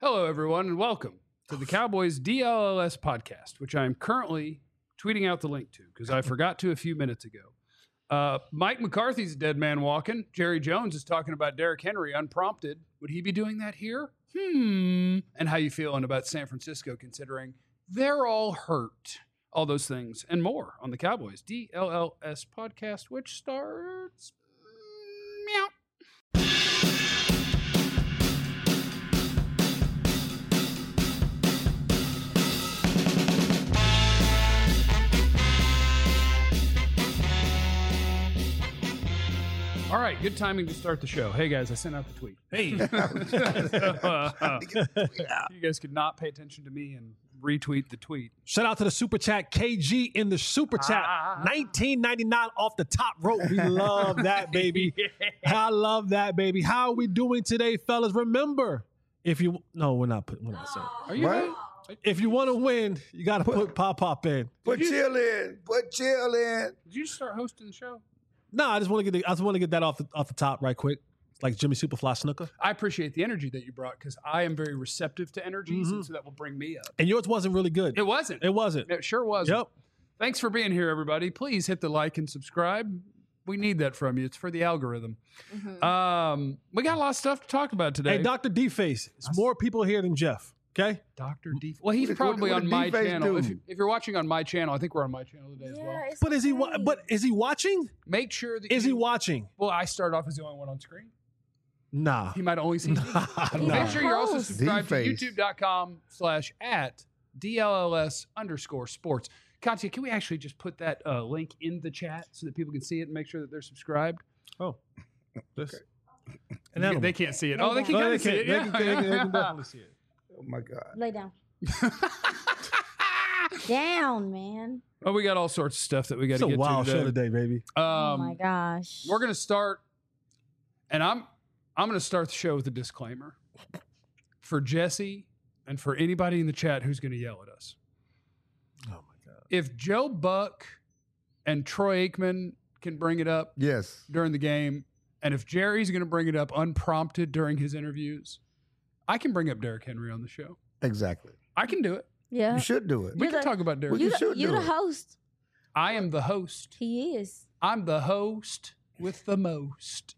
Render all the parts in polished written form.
Hello, everyone, and welcome to the Cowboys DLLS podcast, which I am currently tweeting out the link to because I forgot to a few minutes ago. Mike McCarthy's a dead man walking. Jerry Jones is talking about Derrick Henry unprompted. Would he be doing that here? And how you feeling about San Francisco considering they're all hurt? All those things and more on the Cowboys DLLS podcast, which starts meow. All right, good timing to start the show. Hey, guys, I sent out the tweet. Hey. You guys could not pay attention to me and retweet the tweet. Shout out to the Super Chat. KG in the Super Chat. $19.99 off the top rope. We love that, baby. Yeah. I love that, baby. How are we doing today, fellas? Remember, if you... No, we're not saying. Are you What? If you want to win, you got to put Pop in. Put chill in. Put chill in. Did you start hosting the show? No, I just want to get that off the top right quick. It's like Jimmy Superfly Snooker. I appreciate the energy that you brought because I am very receptive to energies, and so that will bring me up. And yours wasn't really good. It wasn't. It wasn't. It sure wasn't. Yep. Thanks for being here, everybody. Please hit the like and subscribe. We need that from you. It's for the algorithm. We got a lot of stuff to talk about today. Hey, Dr. D-Face. It's more people here than Jeff. Okay? Dr. D. Well, he's What probably did on my D-Face channel. do? If you're watching on my channel, I think we're on my channel today as well. But is he watching? Make sure that Is he watching? Well, I started off as the only one on screen. Nah. He might have only seen me. Nah. Make sure you're also subscribed to D-Face. youtube.com/@DLLS_sports. Katya, can we actually just put that link in the chat so that people can see it and make sure that they're subscribed? Oh. This. They can't see it. Oh, they No, can they see it. can't. They Yeah. can definitely see it. Oh my God. Lay down. Down, man. Well, we got all sorts of stuff that we got It's to a get wild to show today. today, baby. Oh my gosh. We're gonna start, and I'm gonna start the show with a disclaimer for Jesse and for anybody in the chat who's gonna yell at us. Oh my God. If Joe Buck and Troy Aikman can bring it up Yes. during the game, and if Jerry's gonna bring it up unprompted during his interviews, I can bring up Derrick Henry on the show. Exactly. I can do it. Yeah. You should do it. We You're can the- talk about Derrick. Well, you should You're do the it. host. I am the host. He is. I'm the host with the most.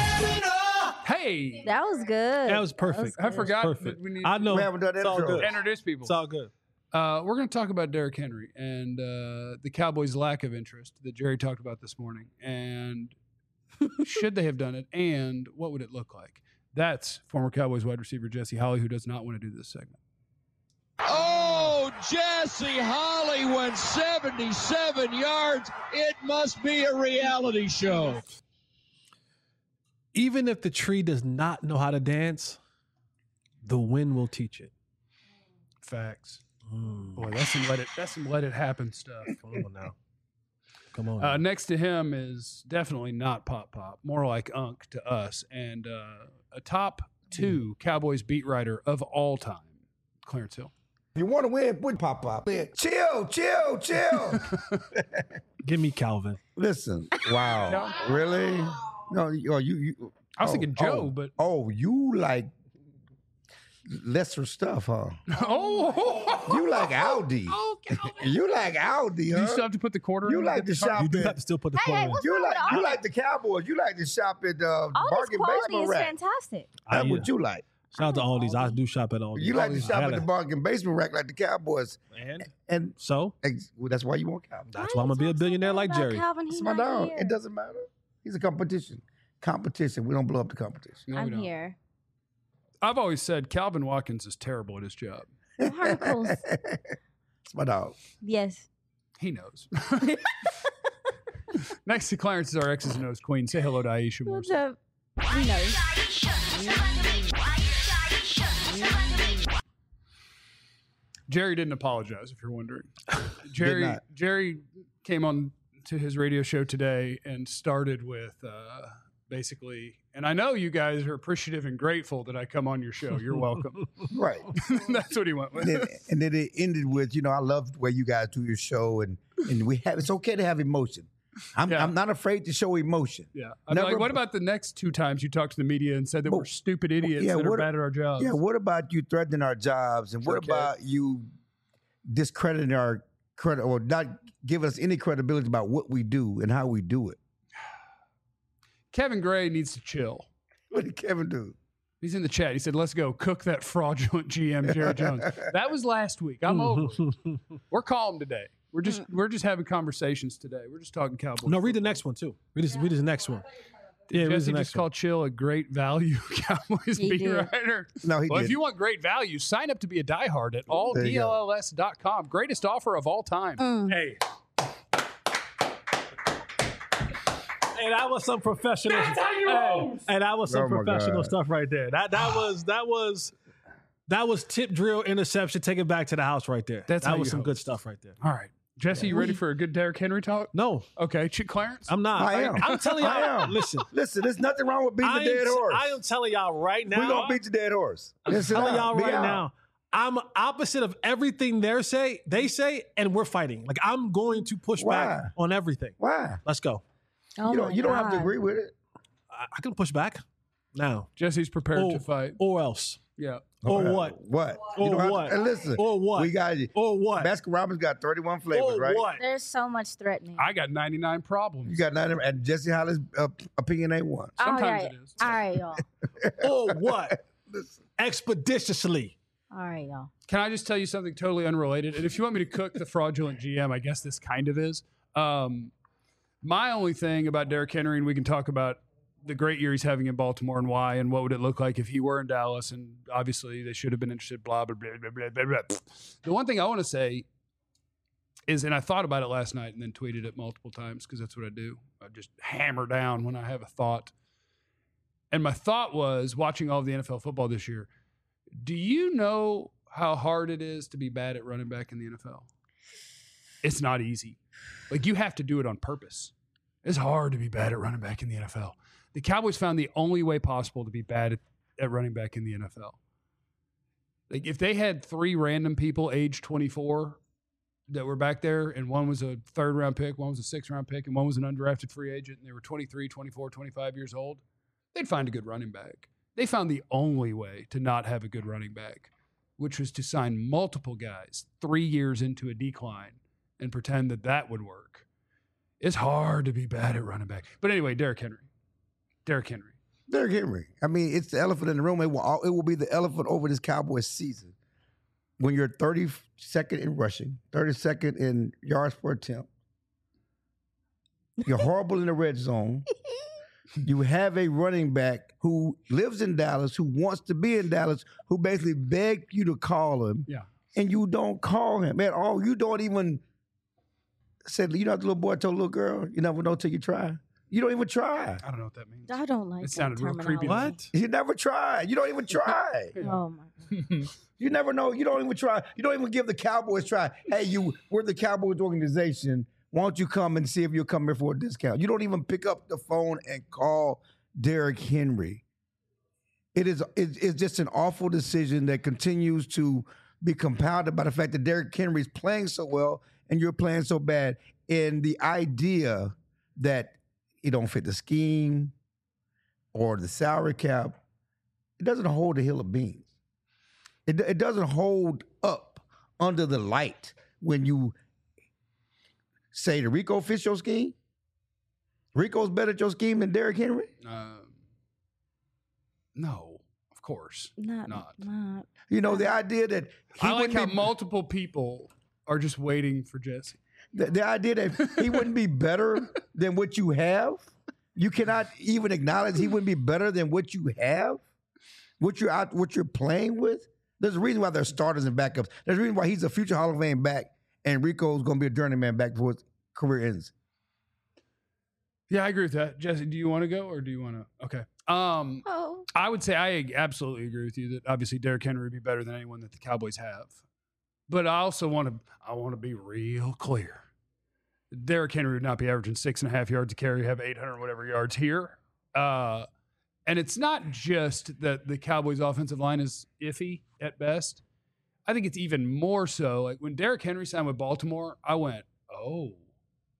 Hey, That was good. That was perfect. I forgot Perfect. that we need I know. We haven't done It's all intro. good. introduce people. It's all good. We're going to talk about Derrick Henry and the Cowboys' lack of interest that Jerry talked about this morning. And should they have done it? And what would it look like? That's former Cowboys wide receiver Jesse Holley, who does not want to do this segment. Oh, Jesse Holley went 77 yards. It must be a reality show. Even if the tree does not know how to dance, the wind will teach it. Facts. Boy, that's some let it happen stuff. Come on now. Come on. now. Next to him is definitely not Pop Pop, more like Unk to us, and a top 2 Cowboys beat writer of all time, Clarence Hill. If you want to win, put pop up. Chill. Give me Calvin. Listen. Wow. Really? No, you. I was thinking Joe, but Oh, you like lesser stuff, huh? oh, You like Audi. You like Audi, you huh? still have to put the quarter. You in like to shop You do at. have to still put the Hey, quarter in. what's You wrong like with all you that? like the Cowboys. You like to shop at All this bargain quality basement is rack. fantastic. That's Yeah. what you like. Shout out to Aldi's. I do shop at Aldi's. You like to Aldi's. shop I at the gotta- bargain basement rack like the Cowboys. And So well, that's why you want Cowboys. that's why I'm gonna be a billionaire like Jerry. Calvin, It's he's my not dog. here. It doesn't matter. He's a competition. Competition. We don't blow up the competition. No, we I'm don't. here. I've always said Calvin Watkins is terrible at his job. No harmfuls. It's my dog. Yes. He knows. Next to Clarence is our X's and O's queen. Say hello to Aisha What's Morrison. up? He knows. Jerry didn't apologize, if you're wondering. not. Jerry came on to his radio show today and started with basically, and I know you guys are appreciative and grateful that I come on your show. You're welcome. Right. That's what he went with. And then it ended with, I love the way you guys do your show and we have it's okay to have emotion. I'm not afraid to show emotion. Yeah. I'm like, Never- what about the next 2 times you talked to the media and said that we're stupid idiots that are bad at our jobs? Yeah, what about you threatening our jobs? And what about you discrediting our credit or not giving us any credibility about what we do and how we do it? Kevin Gray needs to chill. What did Kevin do? He's in the chat. He said, let's go cook that fraudulent GM, Jerry Jones. That was last week. I'm over it. We're calm today. We're just having conversations today. We're just talking Cowboys. No, read the next one too. Read this next one. Yeah, read the Jesse next just called Chill a great value Cowboys He beat did. writer. No, he Well, if didn't. you want great value, sign up to be a diehard at alldlls.com. Greatest offer of all time. Hey. Hey, that was some professional. That's how you roll. Hey, that was some Oh, my professional God. stuff right there. That was tip drill interception. Take it back to the house right there. That's how that was you some host. good stuff right there. All right. Jesse, you ready for a good Derrick Henry talk? No, Okay. Clarence? I'm not. I am. I'm telling y'all. I am. Listen, Listen, there's nothing wrong with beating the dead horse. I am telling y'all right now. We're going to beat the dead horse. I'm Listen telling out. y'all Be right out. now. I'm opposite of everything they say, and we're fighting. Like I'm going to push Why? back on everything. Why? Let's go. Oh You don't have to God. agree with it. I can push back now, Jesse's prepared to fight. or else, Yeah. or what, What? Or You don't have what? To, and listen. or what, We got you. or what, Baskin Robbins got 31 flavors, or right? what. There's so much threatening. I got 99 problems. You got 90, and Jesse Hollis' opinion ain't one. Sometimes all right. it is. All right, y'all. Or what? Listen. Expeditiously. All right, y'all. Can I just tell you something totally unrelated? And if you want me to cook the fraudulent GM, I guess this kind of is. My only thing about Derrick Henry, and we can talk about the great year he's having in Baltimore and why, and what would it look like if he were in Dallas, and obviously they should have been interested, blah, blah, blah, blah, blah, blah, blah. The one thing I want to say is, and I thought about it last night and then tweeted it multiple times because that's what I do. I just hammer down when I have a thought. And my thought was, watching all of the NFL football this year, do you know how hard it is to be bad at running back in the NFL? It's not easy. Like, you have to do it on purpose. It's hard to be bad at running back in the NFL. The Cowboys found the only way possible to be bad at running back in the NFL. Like, if they had 3 random people age 24 that were back there, and one was a 3rd-round pick, one was a 6th-round pick, and one was an undrafted free agent, and they were 23, 24, 25 years old, they'd find a good running back. They found the only way to not have a good running back, which was to sign multiple guys 3 years into a decline and pretend that that would work. It's hard to be bad at running back. But anyway, Derrick Henry. Derrick Henry. I mean, it's the elephant in the room. It will be the elephant over this Cowboys season. When you're 32nd in rushing, 32nd in yards per attempt, you're horrible in the red zone. You have a running back who lives in Dallas, who wants to be in Dallas, who basically begged you to call him. Yeah. And you don't call him at all. You don't even say, you know what the little boy told the little girl? You never know till you try. You don't even try. I don't know what that means. I don't like It that sounded real creepy. terminology. You never try. You don't even try. Oh my God. You never know. You don't even try. You don't even give the Cowboys a try. Hey, we're the Cowboys organization. Why don't you come and see if you'll come here for a discount? You don't even pick up the phone and call Derrick Henry. It's just an awful decision that continues to be compounded by the fact that Derrick Henry is playing so well and you're playing so bad. And the idea that he don't fit the scheme or the salary cap, it doesn't hold a hill of beans. It doesn't hold up under the light when you say the Rico fits your scheme. Rico's better at your scheme than Derrick Henry? No, of course. Not. You know, the idea that he I like wouldn't how be, multiple people are just waiting for Jesse. the idea that he wouldn't be better than what you have. You cannot even acknowledge he wouldn't be better than what you have, what you're playing with. There's a reason why there's starters and backups. There's a reason why he's a future Hall of Fame back and Rico's going to be a journeyman back before his career ends. Yeah, I agree with that. Jesse, do you want to go or do you want to? Okay. Oh. I would say I absolutely agree with you that obviously Derrick Henry would be better than anyone that the Cowboys have. But I also want to be real clear. Derrick Henry would not be averaging 6.5 yards a carry, have 800 whatever yards here. And it's not just that the Cowboys' offensive line is iffy at best. I think it's even more so. Like when Derrick Henry signed with Baltimore, I went, oh,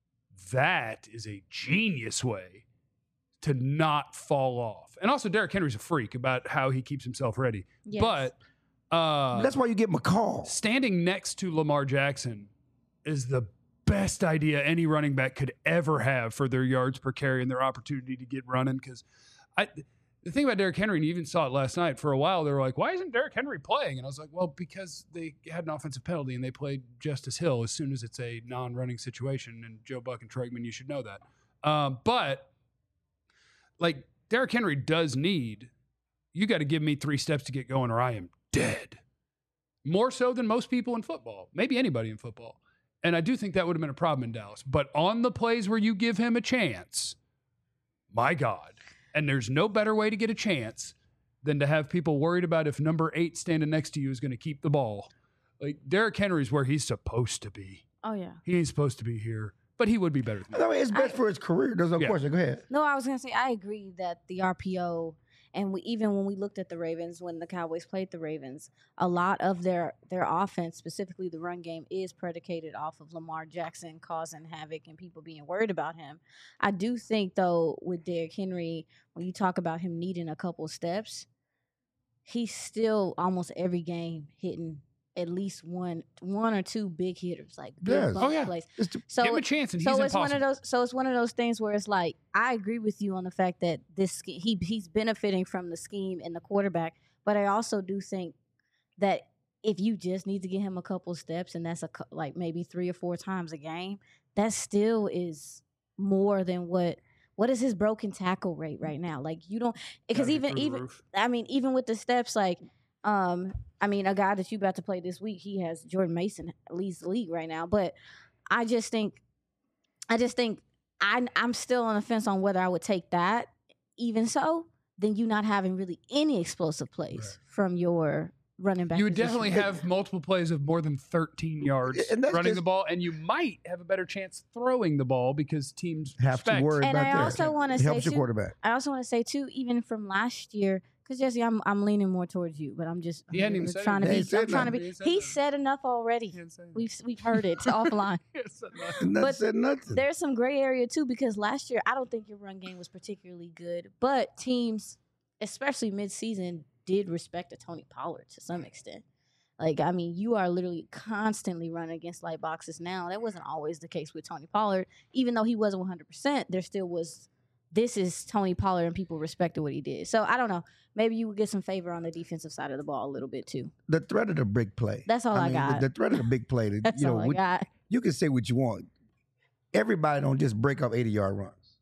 that is a genius way to not fall off. And also, Derrick Henry's a freak about how he keeps himself ready. Yes. But That's why you get McCall. standing next to Lamar Jackson is the best idea any running back could ever have for their yards per carry and their opportunity to get running. Because the thing about Derrick Henry, and you even saw it last night, for a while they were like, why isn't Derrick Henry playing? And I was like, well, because they had an offensive penalty and they played Justice Hill as soon as it's a non-running situation. And Joe Buck and Tregman, you should know that. But like Derrick Henry does need, you got to give me 3 steps to get going or I am dead. More so than most people in football, maybe anybody in football. And I do think that would have been a problem in Dallas. But on the plays where you give him a chance, my God. And there's no better way to get a chance than to have people worried about if number 8 standing next to you is going to keep the ball. Like Derrick Henry's where he's supposed to be. Oh, yeah. He ain't supposed to be here, but he would be better than I that. mean, it's best for his career. There's no question. Go ahead. No, I was going to say, I agree that the RPO, and even when we looked at the Ravens, when the Cowboys played the Ravens, a lot of their offense, specifically the run game, is predicated off of Lamar Jackson causing havoc and people being worried about him. I do think, though, with Derrick Henry, when you talk about him needing a couple steps, he's still almost every game hitting at least one or two big hitters, like big Yes. bump plays. Give him a chance, and he's it's impossible. one of those. So it's one of those things where it's like I agree with you on the fact that this he's benefiting from the scheme and the quarterback, but I also do think that if you just need to get him a couple steps, and that's like maybe 3 or 4 times a game, that still is more than what is his broken tackle rate right now? Like you don't, because even I mean even with the steps, like I mean, a guy that you about to play this week, he has Jordan Mason leads the league right now. But I just think I'm still on the fence on whether I would take that. Even so, then you not having really any explosive plays from your running back. You would position. definitely have multiple plays of more than 13 yards And that's running just- the ball, and you might have a better chance throwing the ball because teams Have to respect. worry And about I that. also want It to say helps your too, quarterback. I also want to say too, even from last year, because Jesse, I'm leaning more towards you, but I'm just He hadn't even said trying to anything. be. He I'm said trying to nothing. be. He said He nothing. said enough already. We've heard it offline. Nothing But said nothing. There's some gray area too, because last year I don't think your run game was particularly good, but teams, especially midseason, did respect a Tony Pollard to some extent. Like, I mean, you are literally constantly running against light boxes now. That wasn't always the case with Tony Pollard. Even though he wasn't 100%, there still was, this is Tony Pollard, and people respected what he did. So, I don't know. Maybe you would get some favor on the defensive side of the ball a little bit, too. The threat of the big play. That's all I mean, got. The threat of the big play. That's all I got. You can say what you want. Everybody don't just break up 80-yard runs.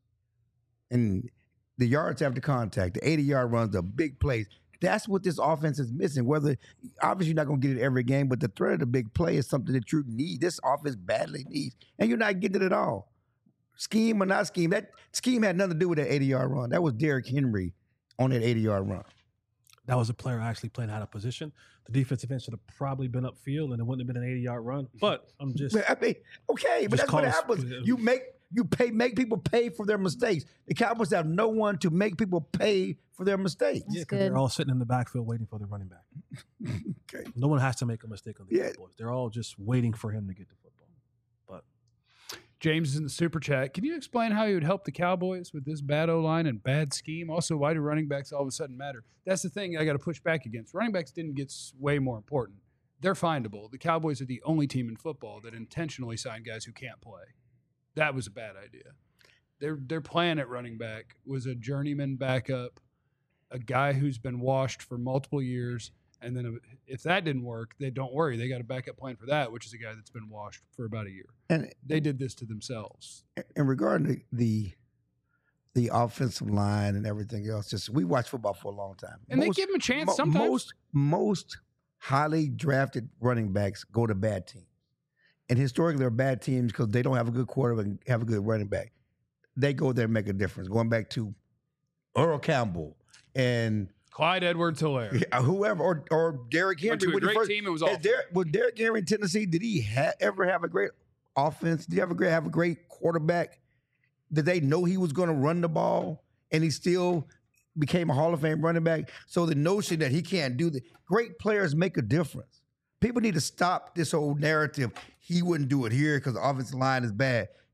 And the yards after contact, the 80-yard runs, the big plays. That's what this offense is missing. Whether, obviously, you're not going to get it every game, but the threat of the big play is something that you need. This offense badly needs. And you're not getting it at all. Scheme or not scheme, that scheme had nothing to do with that 80-yard run. That was Derrick Henry on that 80-yard run. That was a player actually playing out of position. The defensive end should have probably been upfield, and it wouldn't have been an 80-yard run. But I'm just I mean, okay, but Just that's what cause- happens. You make people pay for their mistakes. The Cowboys have no one to make people pay for their mistakes. yeah, 'cause good. they're all sitting in the backfield waiting for the running back. Okay. No one has to make a mistake on the Yeah. Cowboys. They're all just waiting for him to get the football. But James is in the super chat. Can you explain how he would help the Cowboys with this bad O-line and bad scheme? Also, why do running backs all of a sudden matter? That's the thing I got to push back against. Running backs didn't get way more important. They're findable. The Cowboys are the only team in football that intentionally signed guys who can't play. That was a bad idea. Their plan at running back was a journeyman backup, a guy who's been washed for multiple years, and then if that didn't work, they don't worry. They got a backup plan for that, which is a guy that's been washed for about a year. And They did this to themselves. in regard to the offensive line and everything else, just we watch football for a long time. And they give him a chance sometimes. Most highly drafted running backs go to bad teams. And historically, they're bad teams because they don't have a good quarterback and have a good running back. They go there and make a difference. Going back to Earl Campbell and Clyde Edwards-Helaire. whoever, or Derrick Henry. Went to a when he great team. It was awful. Was Derrick Henry in Tennessee? Did he ever have a great offense? Did he ever have a great quarterback? Did they know he was going to run the ball and he still became a Hall of Fame running back? So the notion that he can't do that, great players make a difference. People need to stop this whole narrative. He wouldn't do it here because the offensive line is bad.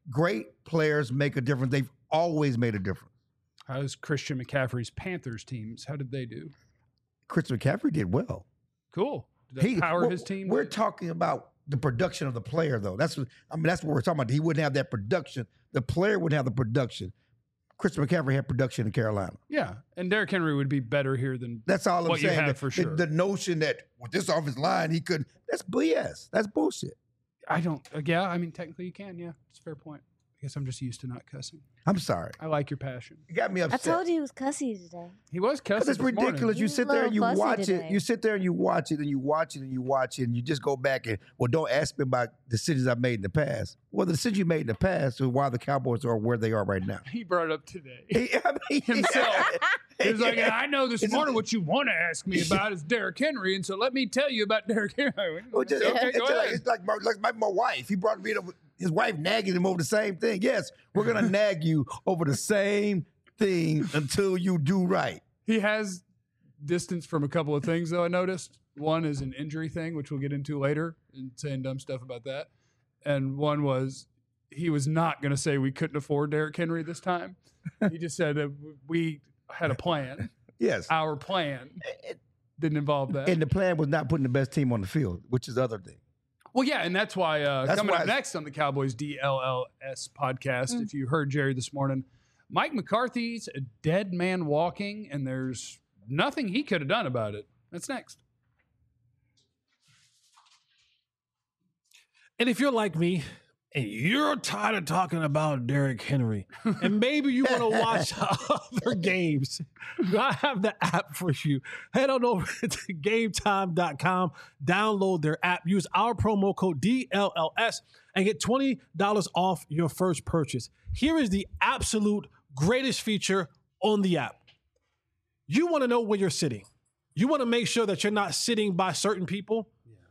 great players make a difference. They've always made a difference. How's Christian McCaffrey's Panthers teams? How did they do? Christian McCaffrey did well. Cool. Did that power his team? We're talking about the production of the player, though. That's what we're talking about. He wouldn't have that production. The player wouldn't have the production. Christian McCaffrey had production in Carolina. Yeah, and Derrick Henry would be better here than that's all I'm what saying. You have for sure. The notion that with this offensive line he could, that's BS. That's bullshit. I don't. Yeah, I mean technically you can. Yeah, it's a fair point. I guess I'm just used to not cussing. I'm sorry. I like your passion. You got me upset. I told you he was cussy today. He was cussing. It's ridiculous. Morning. You sit there and you He's a little watch fussy it. today. You sit there and you watch it and you watch it and you watch it and you just go back and, well, don't ask me about decisions I've made in the past. Well, the decisions you made in the past is why the Cowboys are where they are right now. He brought it up today. I mean, Himself. He was like, I know this It's morning a- what you want to ask me about is Derrick Henry, and so let me tell you about Derrick Henry. Well, just- Okay, go ahead. it's like my wife. He brought me to his wife nagging him over the same thing. Yes, we're gonna nag you over the same thing until you do right. He has distance from a couple of things, though, I noticed. One is an injury thing, which we'll get into later, and saying dumb stuff about that. And one was he was not going to say we couldn't afford Derrick Henry this time. He just said that we had a plan. Yes, Our plan didn't involve that. and the plan was not putting the best team on the field, which is the other thing. Well, yeah, and that's why coming why up it's- next on the Cowboys DLLS podcast, if you heard Jerry this morning, Mike McCarthy's a dead man walking, and there's nothing he could have done about it. That's next. And if you're like me and you're tired of talking about Derrick Henry, and maybe you want to watch other games, I have the app for you. Head on over to GameTime.com, download their app, use our promo code DLLS, and get $20 off your first purchase. Here is the absolute greatest feature on the app. You want to know where you're sitting. You want to make sure that you're not sitting by certain people.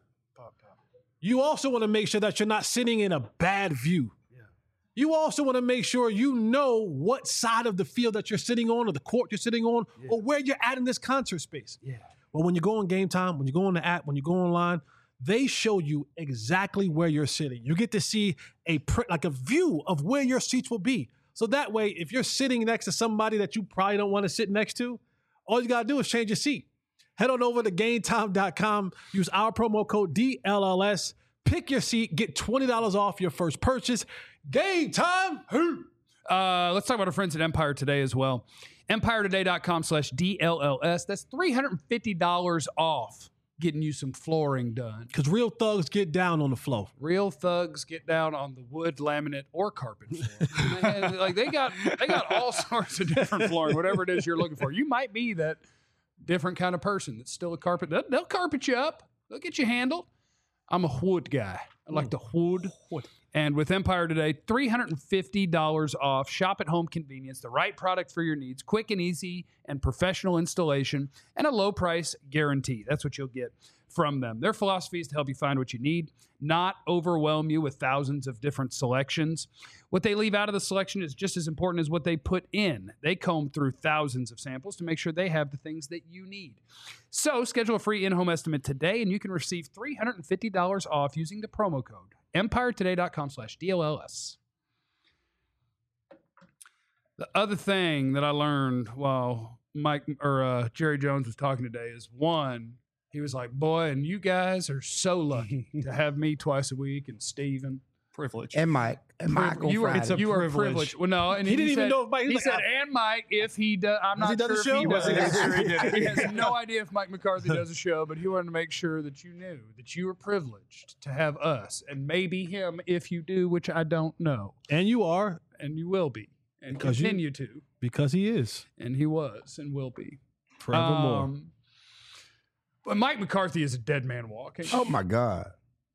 You also want to make sure that you're not sitting in a bad view. You also want to make sure you know what side of the field that you're sitting on or the court you're sitting on or where you're at in this concert space. Yeah. Well, when you go on Game Time, when you go on the app, when you go online, they show you exactly where you're sitting. You get to see a view of where your seats will be. So that way, if you're sitting next to somebody that you probably don't want to sit next to, all you got to do is change your seat. Head on over to GameTime.com. Use our promo code DLLS. Pick your seat. Get $20 off your first purchase. Game Time. Let's talk about our friends at Empire Today as well. EmpireToday.com/DLLS. That's $350 off getting you some flooring done. Because real thugs get down on the floor. Real thugs get down on the wood, laminate, or carpet floor. Man, like they got all sorts of different flooring, whatever it is you're looking for. You might be that different kind of person that's still a carpet. They'll carpet you up. They'll get you handled. I'm a wood guy. I like the wood. And with Empire Today, $350 off. Shop at home convenience, the right product for your needs, quick and easy and professional installation, and a low price guarantee. That's what you'll get from them. Their philosophy is to help you find what you need, not overwhelm you with thousands of different selections. What they leave out of the selection is just as important as what they put in. They comb through thousands of samples to make sure they have the things that you need. So schedule a free in-home estimate today, and you can receive $350 off using the promo code EmpireToday.com/DLLS. The other thing that I learned while Jerry Jones was talking today is one, he was like, boy, and you guys are so lucky to have me twice a week and Steven. Privilege. And Mike on You are, Friday. you are privilege. privileged. Well, no, and He didn't even said, know if Mike- he he's said, like, and Mike, if he does, I'm Has he not done sure the if show? he does. Yes, He has no idea if Mike McCarthy does a show, but he wanted to make sure that you knew that you were privileged to have us, and maybe him if you do, which I don't know, And you are, and you will be, and Because you- continue to, because he is. and he was and will be Forevermore. But Mike McCarthy is a dead man walking. Oh my God.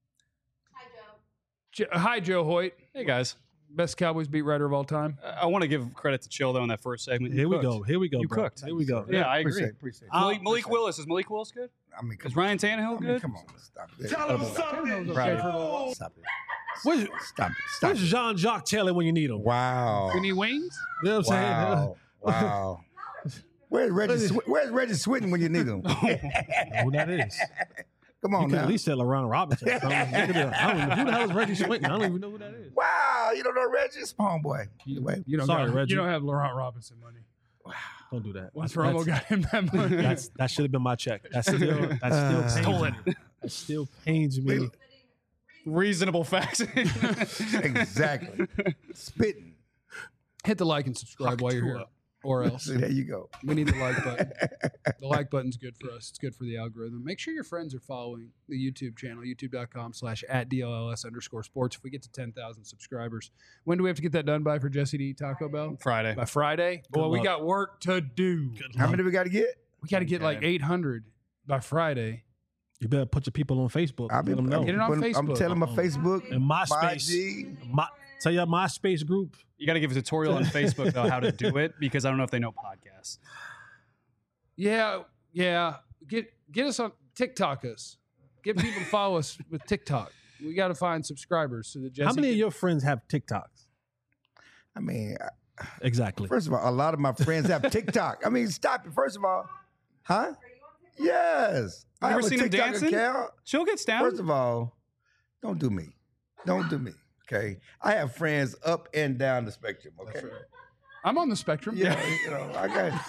Hi, Joe Hoyt, Hey guys, best Cowboys beat writer of all time. I want to give credit to Chill though in that first segment. Here You we cooked. go. Here we go, You bro. cooked. Here we go. Yeah, I agree. Appreciate it. Malik Willis, is Malik Willis good? I mean, Is Ryan Tannehill good? Come on, stop it. Proud of him. Stop it. Where's, Stop it. Stop where's it. Jean-Jacques Taylor when you need him? Wow. We need wings. You know what I'm saying? Wow. Wow. Where's Reggie Swinton when you need him? I don't know who that is. Come You on can now. at least say LaRon Robinson. I don't know who the hell is Reggie Swinton. I don't even know who that is. Wow. You don't know Reggie? It's homeboy. Anyway, You don't Sorry, got, Reggie. You don't have Laurent Robinson money. Don't do that. Once Romo got him that money. That should have been my check. That still Stolen. pains me. That still pains me. Reasonable facts. exactly. Spitting. Hit the like and subscribe while you're here. Or else. So there you go. We need the like button. The like button's good for us. It's good for the algorithm. Make sure your friends are following the YouTube channel, youtube.com/@DLLS_sports. If we get to 10,000 subscribers, when do we have to get that done by for Jesse to eat Taco Bell? Friday. By Friday? Boy, we luck. got work to do. How many we got to get? We got to get like Okay. 800 by Friday. You better put your people on Facebook. I've Let them know. Get it on I'm Facebook. telling my Facebook, And my MySpace. IG. Tell your MySpace group. You got to give a tutorial on Facebook though how to do it because I don't know if they know podcasts. Yeah. Get us on TikTok us. Get people to follow us with TikTok. We got to find subscribers so that Jesse How many of can- your friends have TikToks? I mean, Exactly. first of all, a lot of my friends have TikTok. I mean, stop it. First of all, huh? Yes. I You ever have a seen him TikTok dancing? account. Chill gets down. First of all, don't do me. Don't do me. Okay. I have friends up and down the spectrum. Okay. I'm on the spectrum. Yeah, I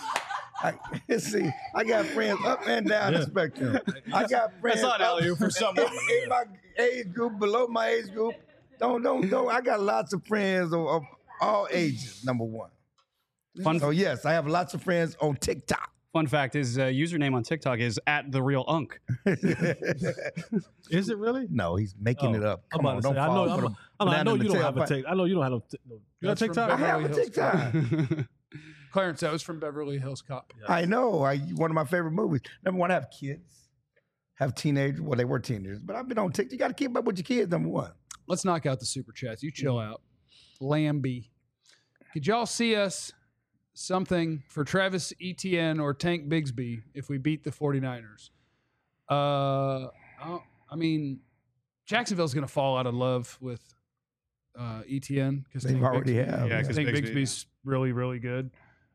got friends up and down the spectrum. I got friends. That's not up- alley-oop for someone. in my age group, below my age group. Don't. I got lots of friends of all ages. Number one. Fun, So yes, I have lots of friends on TikTok. fun fact: his username on TikTok is @TheRealUnc. Is it really? No, he's making it up. I'm Come about on, to don't say, I fall know, for the I banana know in you the don't have a tailpipe. TikTok. I know you don't have a. You have That's a from TikTok? I have a Beverly Hills TikTok. Clarence, that was from Beverly Hills Cop. I know. One of my favorite movies. Number one, I have kids, have teenagers. Well, they were teenagers, but I've been on TikTok. You got to keep up with your kids. Number one. Let's knock out the super chats. You chill out. Lambie. Could y'all see us something for Travis Etienne or Tank Bigsby if we beat the 49ers? I mean, Jacksonville's going to fall out of love with Etienne because They already have. Yeah, I 'cause think Bigsby, Bigsby's really, really good.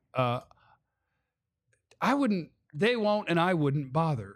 They won't, and I wouldn't bother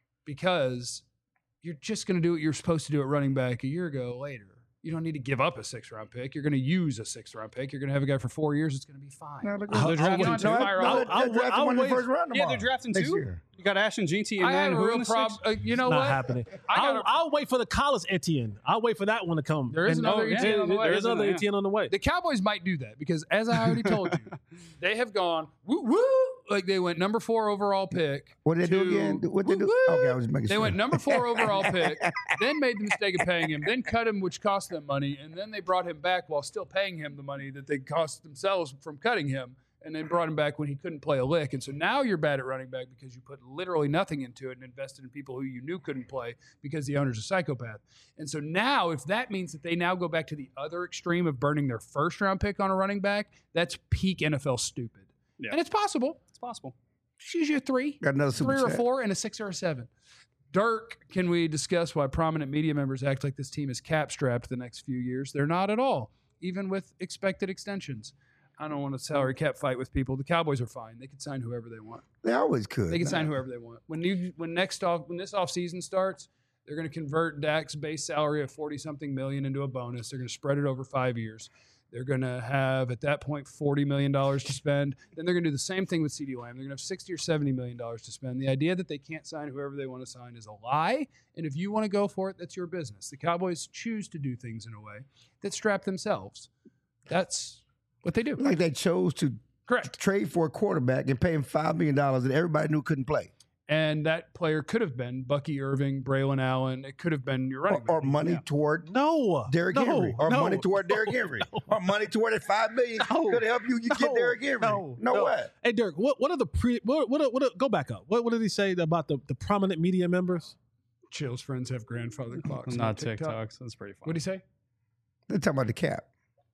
because you're just going to do what you're supposed to do at running back a year ago later. You don't need to give up a 6th-round pick. You're going to use a 6th-round pick. You're going to have a guy for 4 years. It's going to be fine. No, they're They're drafting You don't have to two. fire all- they're drafting I'll one in the wait. first round Yeah, tomorrow. they're drafting next two. year. You got Ashton Jeanty and I then have a who in real the problem. sixth? You know Not what? happening. I got a- I'll wait for the college Etienne. I'll wait for that one to come. There is And- another Etienne on the way. There is another Yeah. Etienne on the way. The Cowboys might do that because, as I already told you, they have gone woo woo. Like they went number 4 overall pick. What did they do to again? What they do? woo-woo. Okay, I was making They sure. went number 4 overall pick, then made the mistake of paying him, then cut him, which cost them money, and then they brought him back while still paying him the money that they cost themselves from cutting him, and then brought him back when he couldn't play a lick. And so now you're bad at running back because you put literally nothing into it and invested in people who you knew couldn't play because the owner's a psychopath. And so now, if that means that they now go back to the other extreme of burning their 1st-round pick on a running back, that's peak NFL stupid. Yeah. And it's possible. It's possible. Choose your 3. Got another super 3 or chat. 4 and a 6 or a 7. Dirk, can we discuss why prominent media members act like this team is cap strapped the next few years? They're not at all, even with expected extensions. I don't want a salary cap fight with people. The Cowboys are fine. They can sign whoever they want. They always could. They can sign whoever they want. When this offseason starts, they're going to convert Dak's base salary of 40-something million into a bonus. They're going to spread it over 5 years. They're going to have, at that point, $40 million to spend. Then they're going to do the same thing with CeeDee Lamb. They're going to have $60 or $70 million to spend. The idea that they can't sign whoever they want to sign is a lie. And if you want to go for it, that's your business. The Cowboys choose to do things in a way that strap themselves. That's what they do. Like they chose to Correct. trade for a quarterback and pay him $5 million that everybody knew couldn't play. And that player could have been Bucky Irving, Braylon Allen. It could have been your running Or back. money toward No. Derrick no, Henry. Or no. money toward Derrick Henry. Or money toward that $5 million No. could help you get No. Derrick Henry. No. What? Hey, Dirk, what are the go back up. What did he say about the prominent media members? Chill's friends have grandfather clocks. Not TikToks. That's pretty funny. What do you say? They're talking about the cap.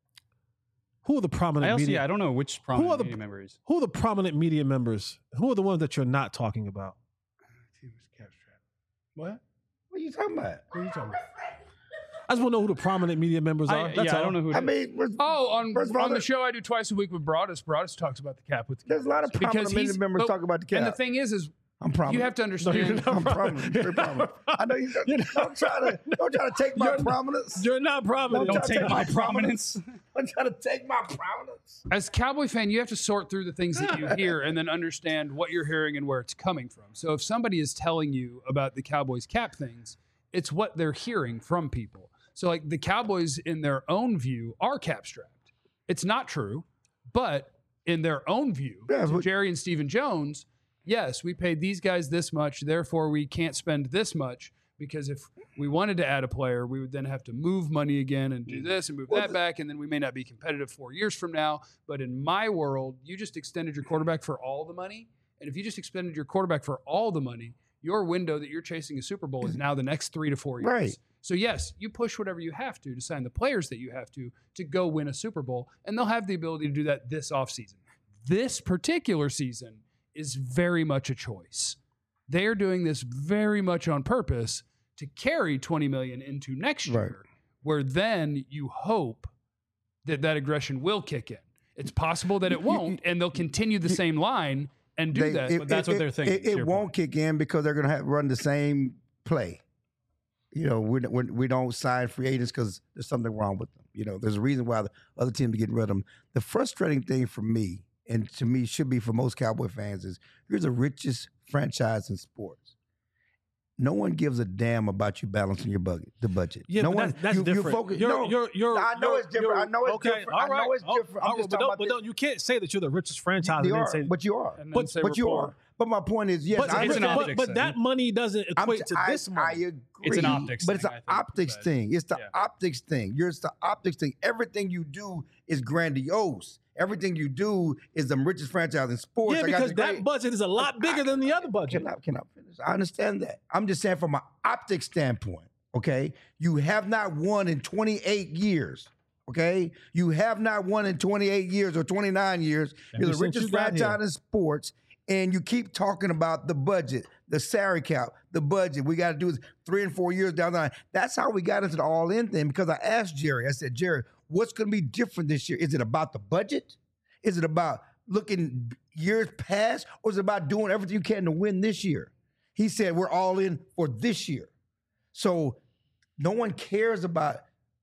Who are the prominent media? I don't know which Who are prominent the- media members. Who are the prominent media members? Who are the ones that you're not talking about? What? What are you talking about? What are you talking about? I just want to know who the prominent media members are. That's I all. don't know who. I mean, Oh, First of all, on the there- show I do twice a week with Broadus. Broadus talks about the cap with the there's a lot of Cowboys. prominent he's- members but- talking about the cap. And the thing is I'm prominent. You have to understand. I'm prominent. Very prominent. I know you. Don't try to take my prominence. You're not prominent. Don't take my prominence. I'm trying to take my prominence. As a Cowboy fan, you have to sort through the things that you hear and then understand what you're hearing and where it's coming from. So if somebody is telling you about the Cowboys cap things, it's what they're hearing from people. So like the Cowboys in their own view are cap strapped. It's not true, but in their own view, to Jerry and Stephen Jones, yes, we paid these guys this much, therefore we can't spend this much, because if we wanted to add a player, we would then have to move money again and do this and move that back, and then we may not be competitive 4 years from now. But in my world, you just extended your quarterback for all the money, and if you just extended your quarterback for all the money, your window that you're chasing a Super Bowl is now the next 3 to 4 years. Right. So yes, you push whatever you have to sign the players that you have to go win a Super Bowl, and they'll have the ability to do that this offseason. This particular season is very much a choice. They are doing this very much on purpose to carry $20 million into next year, where then you hope that that aggression will kick in. It's possible that it won't, and they'll continue the same line and do that. But that's what they're thinking. It won't kick in because they're going to have run the same play. You know, we don't sign free agents because there's something wrong with them. You know, there's a reason why the other teams are getting rid of them. The frustrating thing for me, and to me should be for most Cowboy fans, is you're the richest franchise in sports. No one gives a damn about you balancing the budget. Yeah, no but one. that's different. You focus, You're, I know it's different. I know it's okay, different. all right. I know it's different. I'm just talking about this. You can't say that you're the richest franchise. You and are, then say, but you are. And then But say we're you poor. are. But my point is, yes, but, it's an optics but thing. that money doesn't equate to this I money. agree. It's an optics but it's thing, an I think, optics but- thing. It's the yeah. optics thing. It's the optics thing. Everything you do is grandiose. Everything you do is the richest franchise in sports. Yeah, because that budget is a lot bigger than the other budget. Can I finish? I understand that. I'm just saying from an optics standpoint, okay? You have not won in 28 years, okay? You have not won in 28 years or 29 years. You're the since richest you got franchise here. in sports, and you keep talking about the budget, the salary cap, the budget. We got to do this 3 and 4 years down the line. That's how we got into the all-in thing, because I asked Jerry, I said, Jerry, what's going to be different this year? Is it about the budget? Is it about looking years past, or is it about doing everything you can to win this year? He said, we're all in for this year. So no one cares about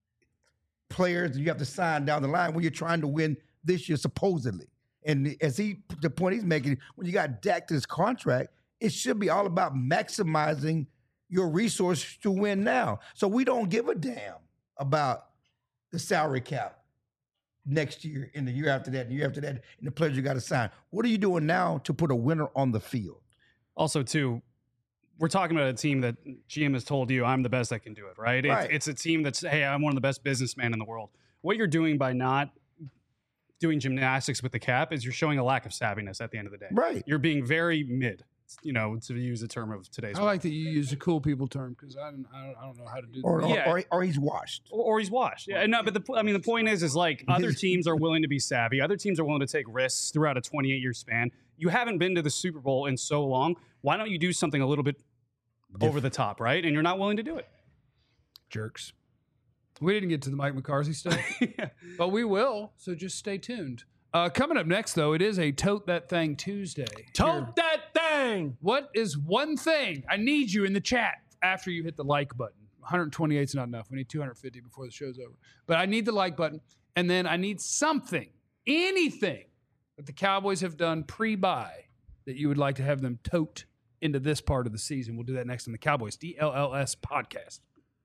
players that you have to sign down the line when you're trying to win this year, supposedly. And as the point he's making, when you got Dak to this contract, it should be all about maximizing your resources to win now. So we don't give a damn about the salary cap next year and the year after that and the year after that and the players you got to sign. What are you doing now to put a winner on the field? Also, too, we're talking about a team that GM has told you, I'm the best that can do it, right? Right. It's a team that's, hey, I'm one of the best businessmen in the world. What you're doing by not doing gymnastics with the cap is you're showing a lack of savviness at the end of the day. Right. You're being very mid, you know, to use the term of today's I like that you use a cool people term, because I don't know how to do Or, that. Yeah. or he's washed. or he's washed. Yeah, no, but the point is like other teams are willing to be savvy. Other teams are willing to take risks throughout a 28-year span. You haven't been to the Super Bowl in so long. Why don't you do something a little bit over the top, right? And you're not willing to do it. Jerks. We didn't get to the Mike McCarthy stuff, but we will, so just stay tuned. Coming up next, though, it is a Tote That Thing Tuesday. Tote that thing. What is one thing? I need you in the chat after you hit the like button. 128 is not enough. We need 250 before the show's over. But I need the like button, and then I need something, anything that the Cowboys have done pre-buy that you would like to have them tote into this part of the season. We'll do that next on the Cowboys DLLS podcast.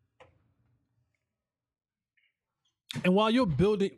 And while you're building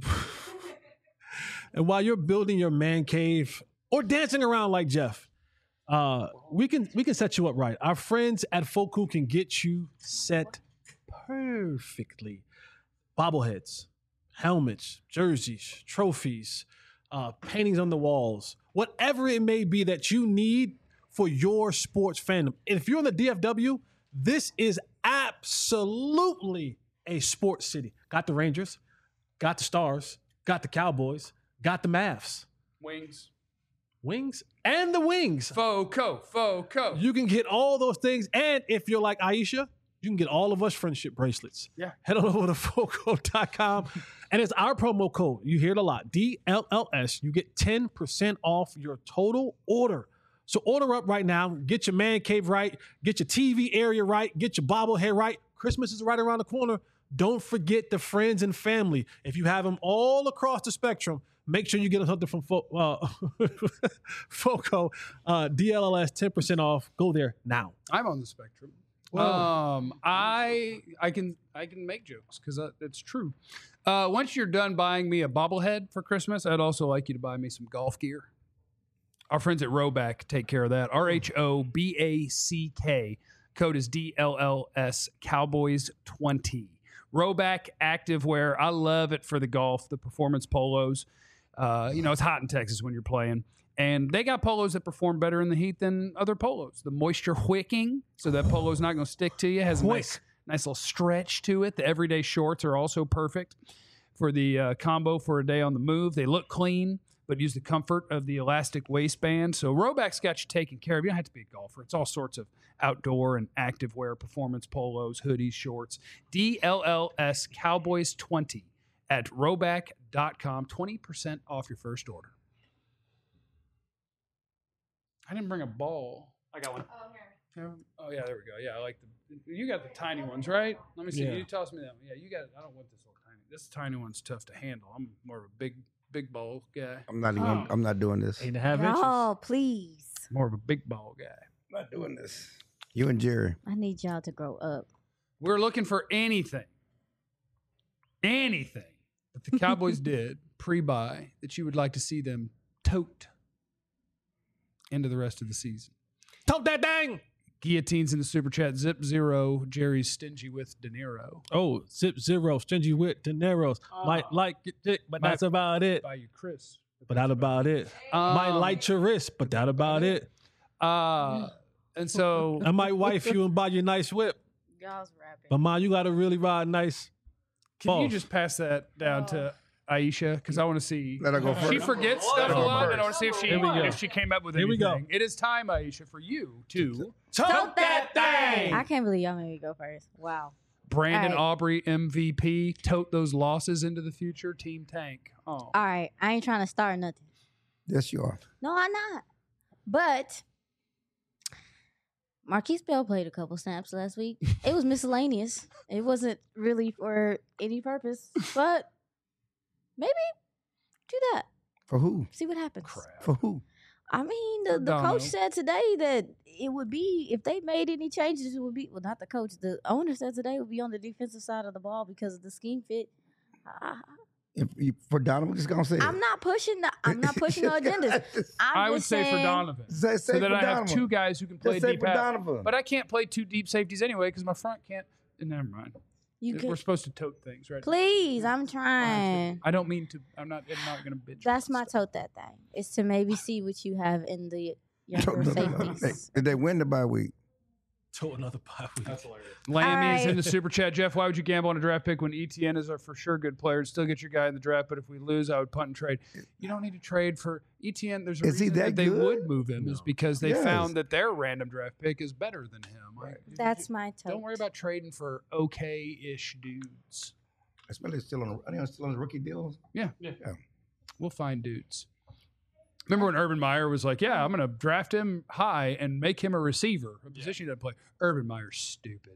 your man cave or dancing around like Jeff, we can set you up right. Our friends at Foku can get you set perfectly. Bobbleheads, helmets, jerseys, trophies, paintings on the walls, whatever it may be that you need for your sports fandom. And if you're in the DFW, this is absolutely a sports city. Got the Rangers, got the Stars, got the Cowboys, got the Mavs. Wings, and the Wings. Foco. You can get all those things. And if you're like Aisha, you can get all of us friendship bracelets. Yeah. Head on over to Foco.com. And it's our promo code. You hear it a lot. DLLS. You get 10% off your total order. So order up right now. Get your man cave right. Get your TV area right. Get your bobblehead right. Christmas is right around the corner. Don't forget the friends and family. If you have them all across the spectrum, make sure you get something from FOCO. DLLS 10% off. Go there now. I'm on the spectrum. I can make jokes because it's true. Once you're done buying me a bobblehead for Christmas, I'd also like you to buy me some golf gear. Our friends at Roback take care of that. RHOBACK. Code is DLLS Cowboys 20. Roback activewear. I love it for the golf, the performance polos. It's hot in Texas when you're playing. And they got polos that perform better in the heat than other polos. The moisture wicking, so that polo's not going to stick to you. Has a nice little stretch to it. The everyday shorts are also perfect for the combo for a day on the move. They look clean, but use the comfort of the elastic waistband. So Roback's got you taken care of. You don't have to be a golfer. It's all sorts of outdoor and activewear, performance polos, hoodies, shorts. DLLS Cowboys 20 at roback.com. 20% off your first order. I didn't bring a ball. I got one. Oh, yeah, there we go. Yeah, I like you got the tiny ones, right? Let me see. Yeah. You toss me that one. Yeah, you got it. I don't want this little tiny. This tiny one's tough to handle. I'm more of a big ball guy. I'm not doing this. 8.5 inches. Oh, please. More of a big ball guy. I'm not doing this. You and Jerry. I need y'all to grow up. We're looking for anything that the Cowboys did pre-buy that you would like to see them tote into the rest of the season. Tote that dang. Guillotines in the super chat. Zip Zero. Jerry's stingy with De Niro. Oh, Zip Zero, stingy with De Niro's. Might like it, dick, but that's about it. Buy you Chris. But that about it. Might light your wrist, but that about it. And so I might wife you and buy you a nice whip. Y'all's rapping. But Ma, you got to really ride nice. can you Boss. just pass that down to Aisha? Because I want to see. Let her go She first. forgets stuff a lot, and I want to see Here we go. if she came up with Here we anything. go. It is time, Aisha, for you to Tote that thing. I can't believe y'all made me go first. Wow. Brandon All right. Aubrey MVP, tote those losses into the future. Team Tank. Oh, All right. I ain't trying to start nothing. Yes, you are. No, I'm not. But Marquise Bell played a couple snaps last week. It was miscellaneous. It wasn't really for any purpose. But maybe do that. For who? See what happens. For who? I mean, the Dono. coach said today that it would be, if they made any changes, it would be, well, not the coach, the owner said today it would be on the defensive side of the ball because of the scheme fit. For Donovan, just gonna say I'm not pushing the agendas. I would just say for saying- Donovan. Say So that for I have Donovan. two guys who can play Just say deep for half. Donovan. But I can't play two deep safeties anyway because my front can't. Never mind. You We're can, supposed to tote things, right? please, I'm trying. I don't mean to. I'm not going to bitch. That's my tote that thing. Is to maybe see what you have in the younger safeties. Did they win the bye week? Tote another bye week. Lammy is All in right. the super chat. Jeff, why would you gamble on a draft pick when ETN is a for sure good player and still get your guy in the draft? But if we lose, I would punt and trade. You don't need to trade for ETN. There's a Is he reason that they good? would move him is because they Yes. found that their random draft pick is better than him. That's my tote. Don't worry about trading for okay-ish dudes. Especially still on. I think still on the rookie deals. We'll find dudes. Remember when Urban Meyer was like, yeah, I'm going to draft him high and make him a receiver, a position he doesn't play. Urban Meyer's stupid.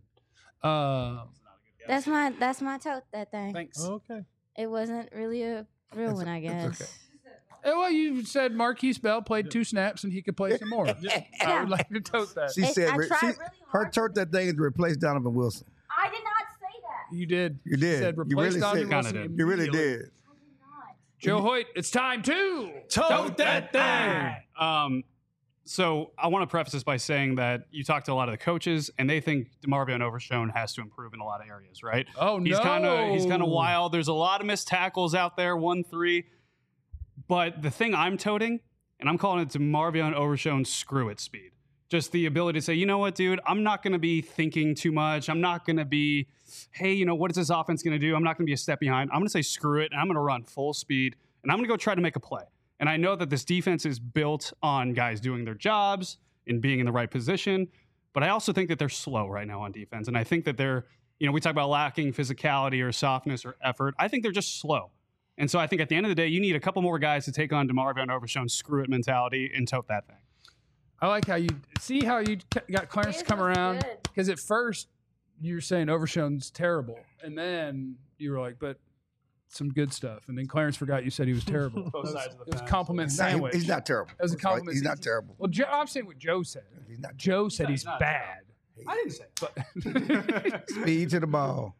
That's my tote that thing. Thanks. Okay. It wasn't really a real one, I guess. okay. Well, you said Marquise Bell played 2 snaps and he could play some more. I Yeah. would like to tote that. She said I tried really her hard. church that thing is to replace Donovan Wilson. I did not say that. You did. You did. said You replace really Donovan said- Wilson Kinda did. You really immediately. did. Joe Hoyt, it's time to Tote that thing. So I want to preface this by saying that you talk to a lot of the coaches, and they think DeMarvion Overshown has to improve in a lot of areas, right? Oh, He's no. kind of wild. There's a lot of missed tackles out there, 1-3. But the thing I'm toting, and I'm calling it DeMarvion Overshown screw it speed. Just the ability to say, you know what, dude, I'm not going to be thinking too much. I'm not going to be, hey, you know, what is this offense going to do? I'm not going to be a step behind. I'm going to say screw it, and I'm going to run full speed, and I'm going to go try to make a play. And I know that this defense is built on guys doing their jobs and being in the right position, but I also think that they're slow right now on defense. And I think that they're, you know, we talk about lacking physicality or softness or effort. I think they're just slow. And so I think at the end of the day, you need a couple more guys to take on DeMarvion Overshown's screw it mentality and tote that thing. I like how you got Clarence to come around, because at first you were saying Overshown's terrible, and then you were like, but some good stuff, and then Clarence forgot you said he was terrible. Both sides of the It was a fence. compliment sandwich. He's not terrible. That was a compliment. He's not terrible. Well, I'm saying what Joe said. He's not. Joe said he's not bad. I didn't say that. But Speed to the ball.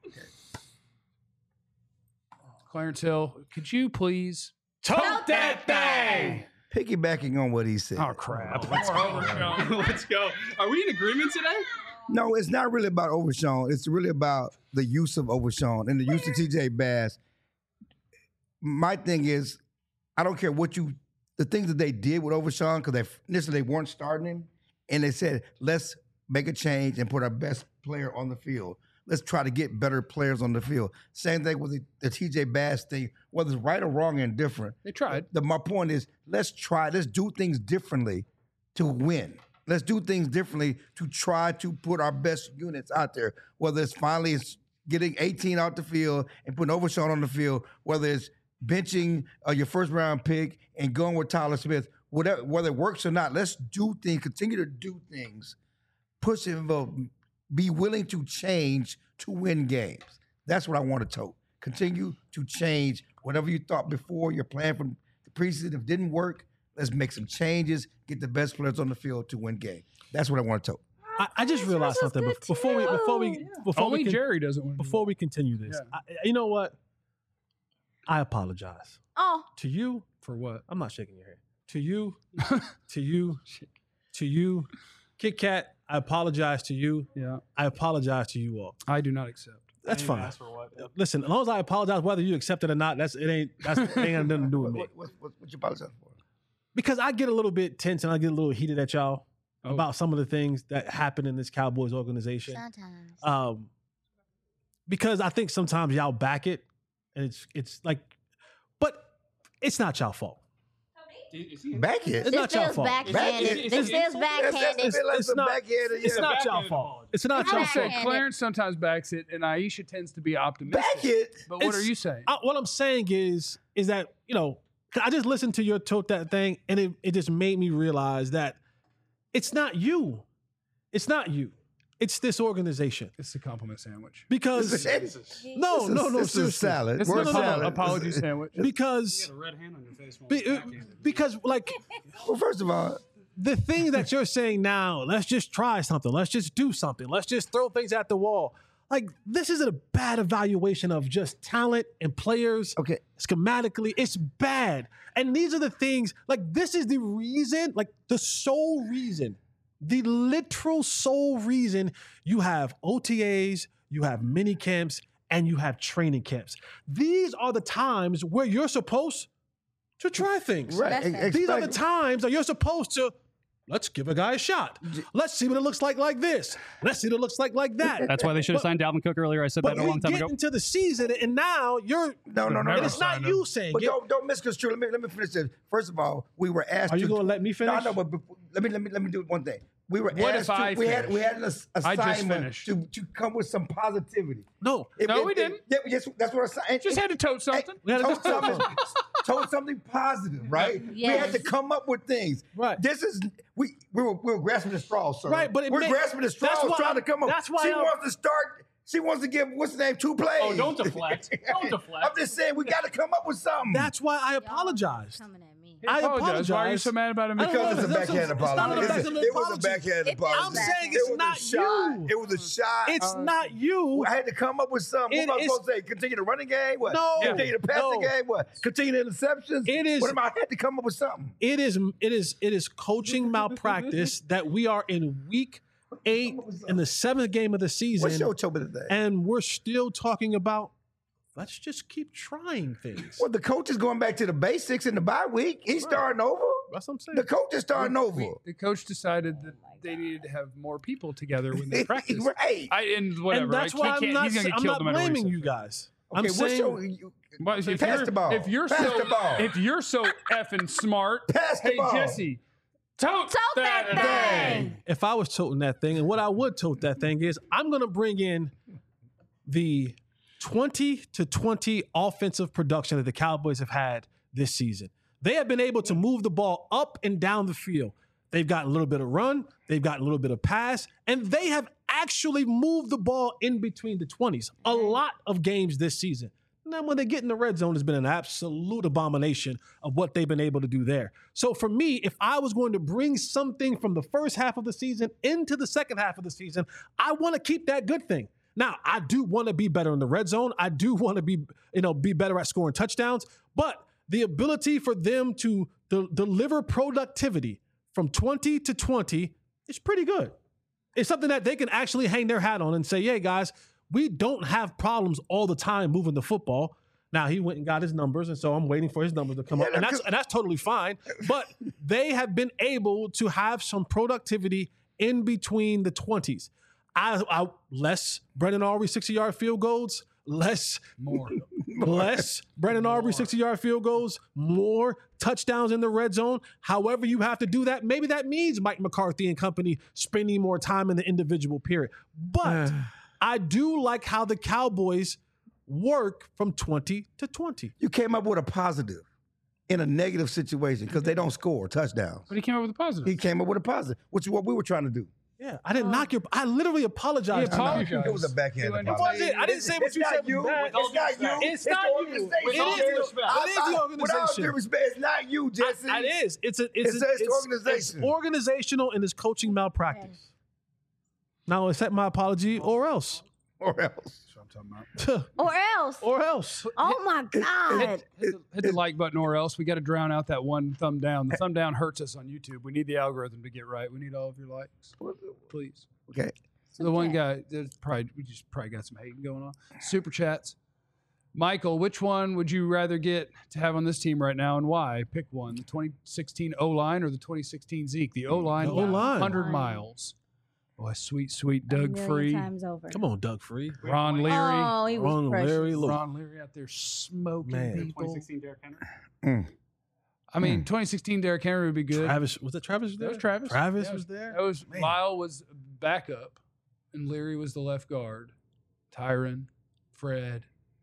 Clarence Hill, could you please Tote that thing. Piggybacking on what he said. Oh crap! Let's go. Are we in agreement today? No, it's not really about Overshown. It's really about the use of Overshown and the use of TJ Bass. My thing is, I don't care the things that they did with Overshown, because initially they weren't starting him, and they said, let's make a change and put our best player on the field. Let's try to get better players on the field. Same thing with the TJ Bass thing, whether it's right or wrong and different. They tried. My point is, let's do things differently to win. Let's do things differently to try to put our best units out there, whether it's getting 18 out the field and putting Overshown on the field, whether it's benching your first round pick and going with Tyler Smith, whether it works or not. Let's do things, continue to do things, push and be willing to change to win games. That's what I want to tote. Continue to change whatever you thought before your plan from the preseason. If it didn't work, let's make some changes, get the best players on the field to win games. That's what I want to tote. I just realized something before Only we Jerry doesn't win. before we continue this. You know what? I apologize Oh, to you. For what? I'm not shaking your hand. To you, to you, Kit Kat. I apologize to you. Yeah. I apologize to you all. I do not accept. That's I didn't fine. ask for what. Listen, as long as I apologize, whether you accept it or not, it ain't got nothing to do with me. What you apologize for? Because I get a little bit tense and I get a little heated at y'all about some of the things that happen in this Cowboys organization. sometimes. Because I think sometimes y'all back it, and it's like, but it's not y'all fault. Back it. It's not y'all fault. Backhanded. This feels backhanded. It's not. backhanded. It's Yeah. not y'all fault. It's not y'all I said fault. Backhanded. Clarence sometimes backs it, and Aisha tends to be optimistic. Back it. But what It's- are you saying? What I'm saying is that, I just listened to your tote that thing, and it just made me realize that it's not you. It's not you. It's this organization. It's a compliment sandwich. Because This no, is seriously. salad. It's Word an salad. apology sandwich. Because You got a red hand on your face. while you're backhanded. because like Well, first of all, the thing that you're saying now, let's just try something. Let's just do something. Let's just throw things at the wall. Like, this is a bad evaluation of just talent and players. okay. Schematically, it's bad. And these are the things, like, this is the reason, like, the sole reason, the literal sole reason you have OTAs, you have mini camps, and you have training camps. These are the times where you're supposed to try things. Right. That's fair. These are the times that you're supposed to, let's give a guy a shot. Let's see what it looks like this. Let's see what it looks like that. That's why they should have signed Dalvin Cook earlier. I said that But a we long time get ago. into the season, and now you're. No. And it's not you saying But it. don't misconstrue. Let me finish this. First of all, we were asked. Are you going to let me finish? No, but let me do one thing. We were What asked. if I we had finish? an I just assignment finished. to come with some positivity. No. No, we didn't. Yeah, yes, that's what I said. Just had to tote something. We had to Told do something, told something positive, right? We had to Yes. come up with things. Right. This is we were grasping the straws, sir. Right, but it we're may- grasping the straws, that's why trying to come up. that's why she I'm- wants to start. She wants to give what's the name 2 plays. Oh, don't deflect. Don't deflect. I'm just saying we got to come up with something. That's why I apologized. Coming at me. I Why are you apologize. so mad about him? I don't because know. it's a That's backhanded it's not apology. a backhanded It was a apology. backhanded It is apology. I'm saying It it's was not a shot. you. It was a shot. It's not you. I had to come up with something. It What am I is- supposed to say? Continue the running game? What? No. Continue the passing No. game? What? Continue the interceptions? It is- What am I? I had to come up with something. It is coaching malpractice that we are in week 8 in the 7th game of the season, What's your topic today? and we're still talking about let's just keep trying things. Well, the coach is going back to the basics in the bye week. He's starting over. That's what I'm saying. The coach is starting over. The coach decided that they needed to have more people together when they practice. Right. And whatever. And that's why I'm not, he's gonna get I'm killed not no matter what he blaming says. you guys. Okay, I'm what's saying your Well, if pass you're, the ball. If you're Pass so the ball. if you're so effing smart, Pass the hey ball. Jesse, tote that thing. if I was toting that thing, and what I would tote that thing is, I'm going to bring in the 20 to 20 offensive production that the Cowboys have had this season. They have been able to move the ball up and down the field. They've got a little bit of run. They've got a little bit of pass. And they have actually moved the ball in between the 20s. A lot of games this season. And then when they get in the red zone, it's been an absolute abomination of what they've been able to do there. So for me, if I was going to bring something from the first half of the season into the second half of the season, I want to keep that good thing. Now, I do want to be better in the red zone. I do want to be better at scoring touchdowns. But the ability for them to deliver productivity from 20 to 20 is pretty good. It's something that they can actually hang their hat on and say, hey, guys, we don't have problems all the time moving the football. Now, he went and got his numbers, and so I'm waiting for his numbers to come up. And that's totally fine. But they have been able to have some productivity in between the 20s. Less Brendan Aubrey 60-yard field goals, less Brendan Aubrey 60-yard field goals, more touchdowns in the red zone. However you have to do that, maybe that means Mike McCarthy and company spending more time in the individual period. But I do like how the Cowboys work from 20 to 20. You came up with a positive in a negative situation because they don't score touchdowns. But he came up with a positive. He came up with a positive, which is what we were trying to do. Yeah, I didn't knock your. I literally apologized. He apologized. It was a backhand It apology. wasn't. I didn't say what you said was bad. It's not you. It's not the you. organization. It is the organization. With all due respect, it's not you, Jesse. It is. It's the organization. It's organizational and it's coaching malpractice. Now, accept my apology or else. Or else. That's what I'm talking about. Or else. Or else. Oh my God. Hit the like button or else. We got to drown out that one thumb down. The thumb down hurts us on YouTube. We need the algorithm to get right. We need all of your likes. Please. Okay. So the one guy, we just probably got some hating going on. Super chats. Michael, which one would you rather get to have on this team right now and why? Pick one. The 2016 O-line or the 2016 Zeke? The O-line. The O-line. 100 miles. Boy, sweet Doug Free. Times over. Come on, Doug Free. Ron Leary. Oh, he was Ron precious. Leary. Look. Ron Leary out there smoking people. 2016 Derrick Henry. I mean, 2016 Derrick Henry would be good. Travis. Was that Travis there? That was Travis. Travis Yeah, was there? That was Lyle was backup, and Leary was the left guard. Tyron, Fred,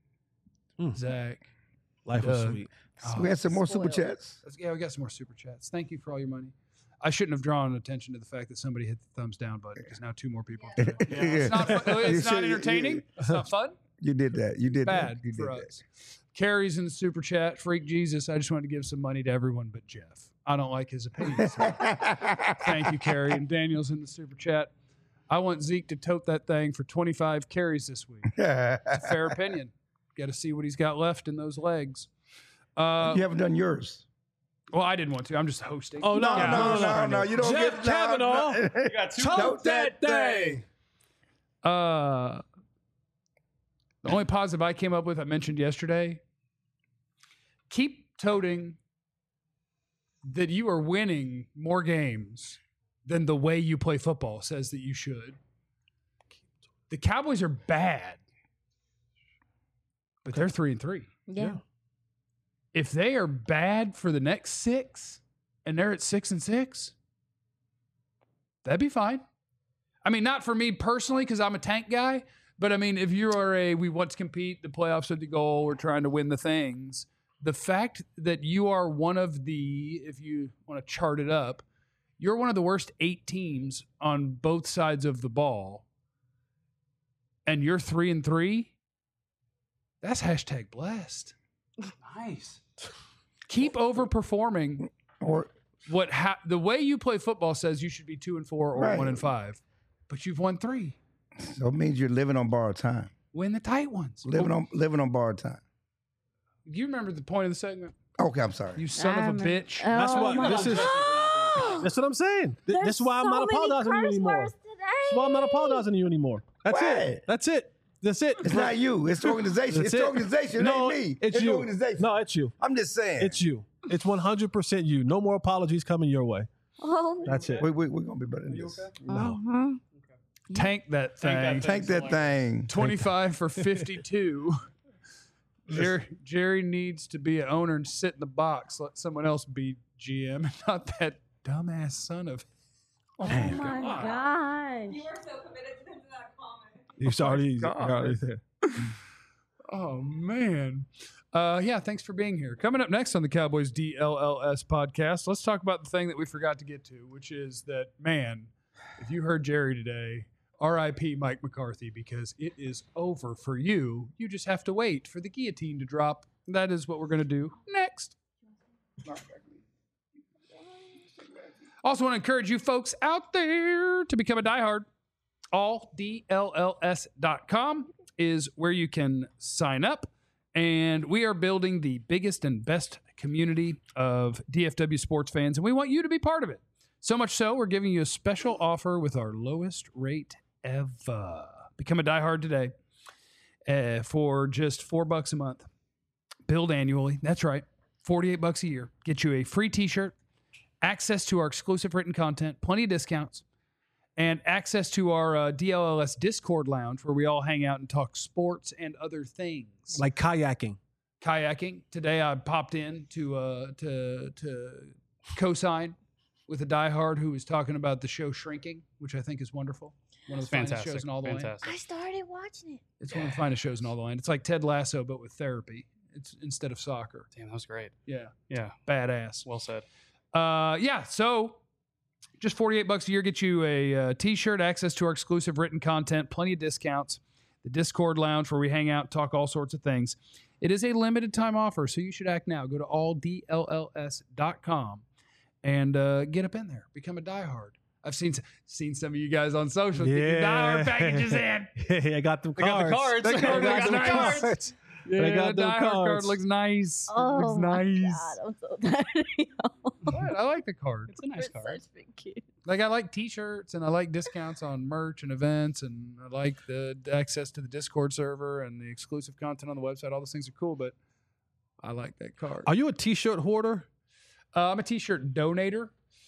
Zach. Life was Doug. sweet. We had some more super Spoiled. chats. Yeah, we got some more super chats. Thank you for all your money. I shouldn't have drawn attention to the fact that somebody hit the thumbs down button because now two more people. Have done it. It's not, it's not entertaining. It's not fun. You did that. You did Bad that. You for did us. Carrie's in the super chat. Freak Jesus. I just wanted to give some money to everyone but Jeff. I don't like his opinions. Thank you, Carrie. And Daniel's in the super chat. I want Zeke to tote that thing for 25 carries this week. that. It's a fair opinion. Got to see what he's got left in those legs. You haven't done yours. Well, I didn't want to. I'm just hosting. Oh, No. You don't Jeff get Kavanaugh. You got two. Tote that thing. The only positive I came up with, I mentioned yesterday, keep toting that you are winning more games than the way you play football says that you should. The Cowboys are bad, but they're 3-3. Yeah. If they are bad for the next 6 and they're at 6-6, that'd be fine. I mean, not for me personally because I'm a tank guy, but I mean, if you are we want to compete, the playoffs are the goal, we're trying to win the things. The fact that you are one of the, if you want to chart it up, you're one of the worst 8 teams on both sides of the ball, and you're 3-3, that's hashtag blessed. Nice. Keep overperforming. Or The way you play football says you should be 2-4 or Right. 1-5, but you've won 3. so it means you're living on borrowed time. Win the tight ones. Living on borrowed time. Do you remember the point of the segment? Okay, I'm sorry. You son of a bitch. That's what my this is. God. That's what I'm saying. There's This is why I'm so not many apologizing to you curse anymore. words today. That's why I'm not apologizing to you anymore. That's Why? it. That's it. That's it. It's not you. It's the organization. That's It's the it. organization. It No, ain't me. it's the you. organization. No, it's you. I'm just saying. It's you. It's 100% you. No more apologies coming your way. Oh. That's it. We're going to be better than this. Mhm. Tank that thing. Take that thing. 25 for 52. Jerry needs to be an owner and sit in the box. Let someone else be GM, not that dumbass son of. Oh my God. You were so committed to that comment. He's already God. already there. Oh, man. Yeah, thanks for being here. Coming up next on the Cowboys DLLS podcast, let's talk about the thing that we forgot to get to, which is that, man, if you heard Jerry today, RIP Mike McCarthy, because it is over for you. You just have to wait for the guillotine to drop. That is what we're going to do next. Also want to encourage you folks out there to become a diehard. AllDLLS.com is where you can sign up. And we are building the biggest and best community of DFW sports fans, and we want you to be part of it. So much so, we're giving you a special offer with our lowest rate ever. Become a diehard today for just $4 a month. Billed annually. That's right. $48 a year. Get you a free t-shirt, access to our exclusive written content, plenty of discounts, and access to our DLLS Discord lounge where we all hang out and talk sports and other things. Like kayaking. Today I popped in to co-sign with a diehard who was talking about the show Shrinking, which I think is wonderful. One of the finest shows in all the land. I started watching it. It's one of the finest shows in all the land. It's like Ted Lasso, but with therapy. It's instead of soccer. Damn, that was great. Yeah. Yeah. Badass. Well said. So just $48 a year gets you a t-shirt, access to our exclusive written content, plenty of discounts, the Discord lounge where we hang out, talk all sorts of things. It is a limited time offer, so you should act now. Go to alldlls.com and get up in there. Become a diehard. I've seen some of you guys on social get your diehard packages in. Hey, I got them cards. got the cards. The card I got looks them nice. cards. Yeah, I got the them diehard cards. card looks nice. Oh, looks my nice. God. I'm so tired of y'all. What? I like the card. It's a nice We're card. such big kids. Like I like t-shirts and I like discounts on merch and events and I like the access to the Discord server and the exclusive content on the website. All those things are cool, but I like that card. Are you a t-shirt hoarder? I'm a t-shirt donator.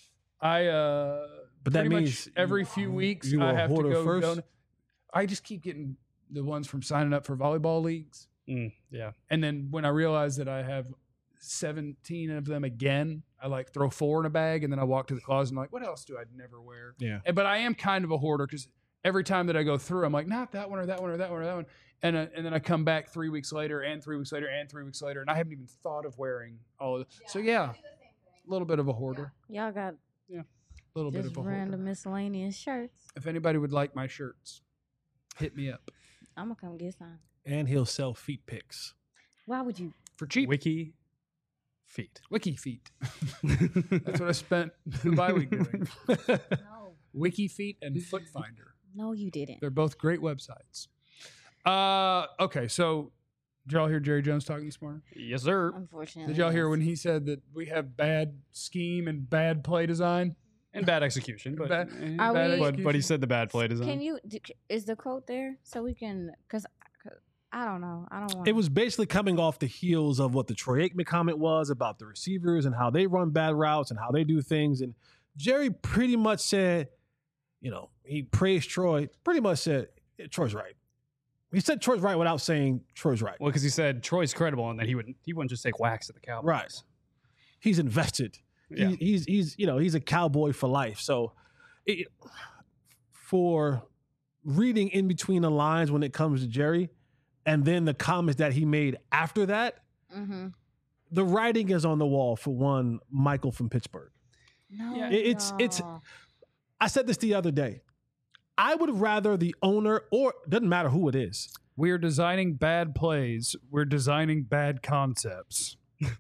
But that pretty means much every few weeks you I a have to hoarder go first? donate. I just keep getting the ones from signing up for volleyball leagues. Yeah. And then when I realize that I have 17 of them again, I like throw 4 in a bag and then I walk to the closet and I'm like, what else do I never wear? Yeah. But I am kind of a hoarder because every time that I go through, I'm like, not that one or that one or that one or that one. And then I come back 3 weeks later and 3 weeks later and 3 weeks later and I haven't even thought of wearing all of it. So yeah, a little bit of a hoarder. Y'all got A little bit just of a hoarder. random miscellaneous shirts. If anybody would like my shirts, hit me up. I'm going to come get some. And he'll sell feet pics. Why would you? For cheap. Wiki feet. Wiki Feet. That's what I spent the bye week doing. No. Wiki Feet and Foot Finder. No, you didn't. They're both great websites. Okay, so did y'all hear Jerry Jones talking this morning? Yes, sir. Unfortunately. Did y'all hear yes. when he said that we have bad scheme and bad play design? And bad execution, but Bad- Are bad we- but he said the bad play design. Can you? Is the quote there so we can? Because I don't know. I don't want. It was basically coming off the heels of what the Troy Aikman comment was about the receivers and how they run bad routes and how they do things. And Jerry pretty much said, he praised Troy, pretty much said, Troy's right. He said Troy's right without saying Troy's right. Well, because he said Troy's credible and that he wouldn't just take whacks at the Cowboys. Right. He's invested. Yeah. He's a cowboy for life. So for reading in between the lines when it comes to Jerry and then the comments that he made after that, Mm-hmm. the writing is on the wall for one Michael from Pittsburgh. No. Yeah. It's I said this the other day. I would rather the owner, or doesn't matter who it is. We're designing bad plays. We're designing bad concepts.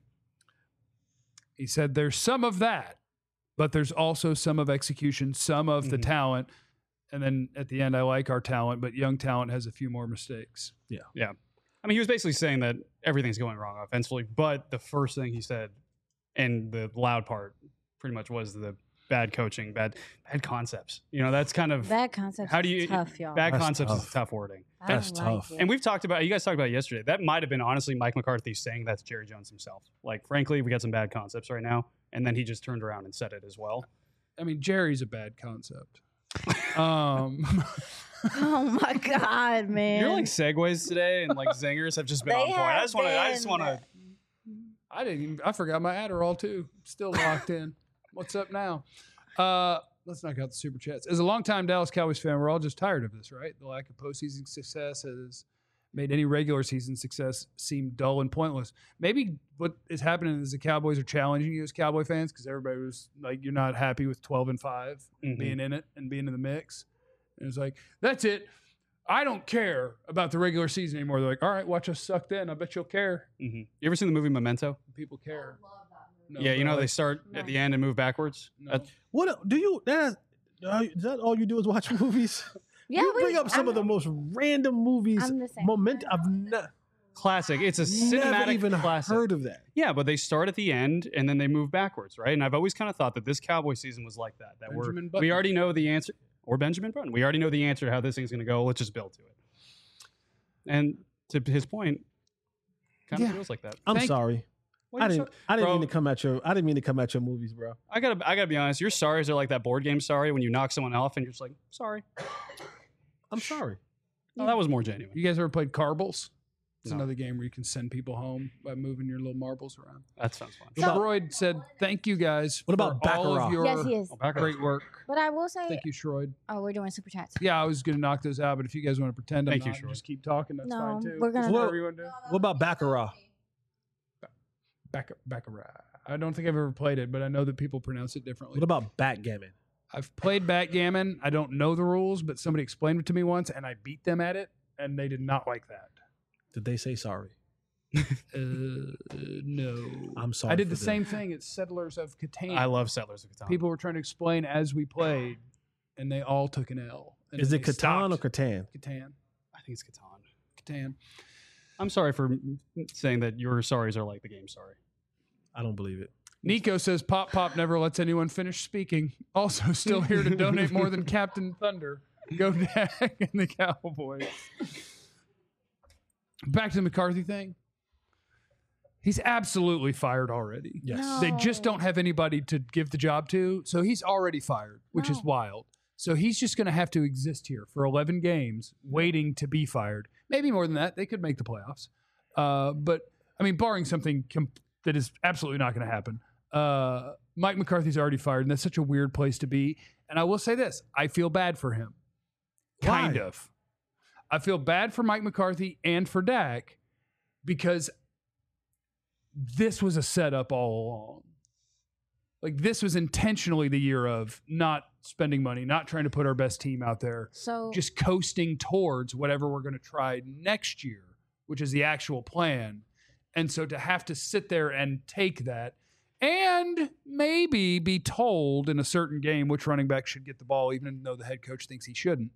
He said there's some of that, but there's also some of execution, some of the talent. And then at the end, I like our talent, but young talent has a few more mistakes. Yeah. I mean, he was basically saying that everything's going wrong offensively, but the first thing he said, and the loud part, pretty much was the bad coaching, bad concepts. That's kind of Bad concepts. how do is you tough, y'all? bad That's concepts tough. is tough wording. I That's don't like tough. it. And you guys talked about it yesterday. That might have been honestly Mike McCarthy saying that to Jerry Jones himself. Like, frankly, we got some bad concepts right now. And then he just turned around and said it as well. I mean, Jerry's a bad concept. Oh my God, man! You're like segues today and like zingers have just been They on point. I just want have to. I forgot my Adderall too. Still locked in. What's up now? Let's knock out the super chats. As a longtime Dallas Cowboys fan, we're all just tired of this, right? The lack of postseason success has made any regular season success seem dull and pointless. Maybe what is happening is the Cowboys are challenging you as Cowboy fans because everybody was like, you're not happy with 12-5 being in it and being in the mix. And it's like, that's it. I don't care about the regular season anymore. They're like, all right, watch us suck then. I bet you'll care. You ever seen the movie Memento? People care. No, Yeah, you know but they start at the end and move backwards. No. What do you? Is that all you do is watch movies? Yeah, you bring up some of the most random movies. I'm the same. I've Classic. It's a never cinematic even classic. heard of that. Yeah, but they start at the end and then they move backwards, right? And I've always kind of thought that this Cowboy season was like that. That Benjamin we Button. already know the answer, or Benjamin Button. We already know the answer to how this thing's going to go. Let's just build to it. And to his point, kind of feels like that. I'm Thank- sorry. Well, I you're didn't. so- I didn't Bro, mean to come at your. I didn't mean to come at your movies, bro. I gotta be honest. Your sorries are like that board game sorry when you knock someone off and you're just like, sorry. I'm sorry. No, that was more genuine. You guys ever played Carbles? It's No. another game where you can send people home by moving your little marbles around. That sounds fun. So- Shroyd said, thank you guys What about for all Baccarat? of your Yes, he is. Oh, back great work. But I will say, Thank you, Shroyd. oh, we're doing super chats. Yeah, I was going to knock those out, but if you guys want to pretend I'm Thank you, not, Shroyd. just keep talking, that's No, fine too. we're gonna- Just whatever you want to do. What about Baccarat? Baccarat. I don't think I've ever played it, but I know that people pronounce it differently. What about backgammon? I've played backgammon. I don't know the rules, but somebody explained it to me once, and I beat them at it, and they did not like that. Did they say sorry? No. I'm sorry. I did for the them. same thing at Settlers of Catan. I love Settlers of Catan. People were trying to explain as we played, and they all took an L. And Is then it they Catan or stopped. Catan? Catan? I think it's Catan. Catan. I'm sorry for saying that your sorries are like the game sorry. I don't believe it. Nico says Pop Pop never lets anyone finish speaking. Also, still here to donate more than Captain Thunder. Go Dak and the Cowboys. Back to the McCarthy thing. He's absolutely fired already. Yes. They just don't have anybody to give the job to. So he's already fired, which is No. wild. So he's just going to have to exist here for 11 games waiting to be fired. Maybe more than that. They could make the playoffs. But, I mean, barring something that is absolutely not going to happen, Mike McCarthy's already fired, and that's such a weird place to be. And I will say this. I feel bad for him. Kind Why? of. I feel bad for Mike McCarthy and for Dak because this was a setup all along. Like, this was intentionally the year of not spending money, not trying to put our best team out there, So just coasting towards whatever we're going to try next year, which is the actual plan. And so to have to sit there and take that and maybe be told in a certain game which running back should get the ball, even though the head coach thinks he shouldn't.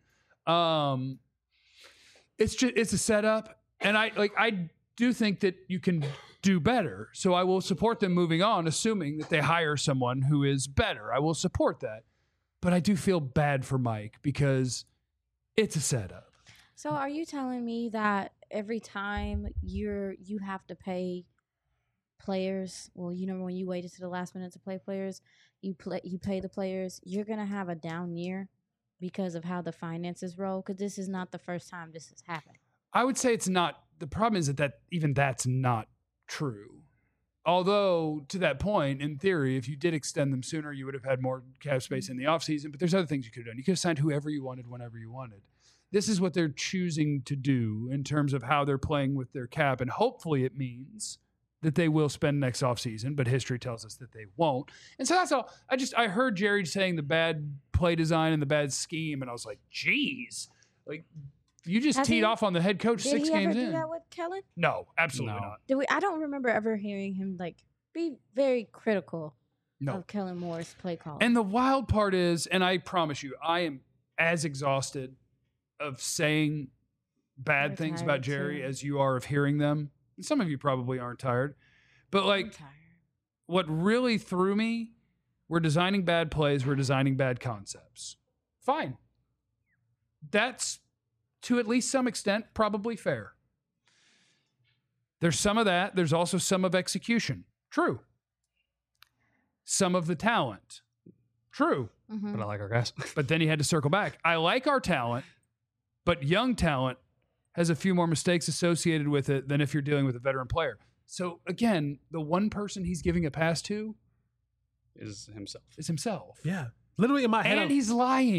It's a setup. And I do think that you can do better. So I will support them moving on, assuming that they hire someone who is better. I will support that. But I do feel bad for Mike because it's a setup. So are you telling me that every time you have to pay players, well, you know, when you waited to the last minute to play players, you pay the players, you're gonna have a down year because of how the finances roll? Because this is not the first time this has happened. I would say it's not. The problem is that even that's not true. Although, to that point, in theory, if you did extend them sooner, you would have had more cap space in the offseason. But there's other things you could have done. You could have signed whoever you wanted, whenever you wanted. This is what they're choosing to do in terms of how they're playing with their cap. And hopefully it means that they will spend next offseason, but history tells us that they won't. And so that's all. I heard Jerry saying the bad play design and the bad scheme, and I was like, geez. Like, you just Has teed he- off on the head coach Did 6 he ever games do in. that with Kellen? No, absolutely No. not. I don't remember ever hearing him be very critical No. of Kellen Moore's play call. And the wild part is, and I promise you, I am as exhausted of saying bad I'm things tired about Jerry too. as you are of hearing them. And some of you probably aren't tired. But like, what really threw me, we're designing bad plays, we're designing bad concepts. Fine. That's, to at least some extent, probably fair. There's some of that. There's also some of execution. True. Some of the talent. True. Mhm. But I like our guys. But then he had to circle back. I like our talent, but young talent has a few more mistakes associated with it than if you're dealing with a veteran player. So again, the one person he's giving a pass to Is himself. is himself. Yeah. Literally in my head. And he's lying.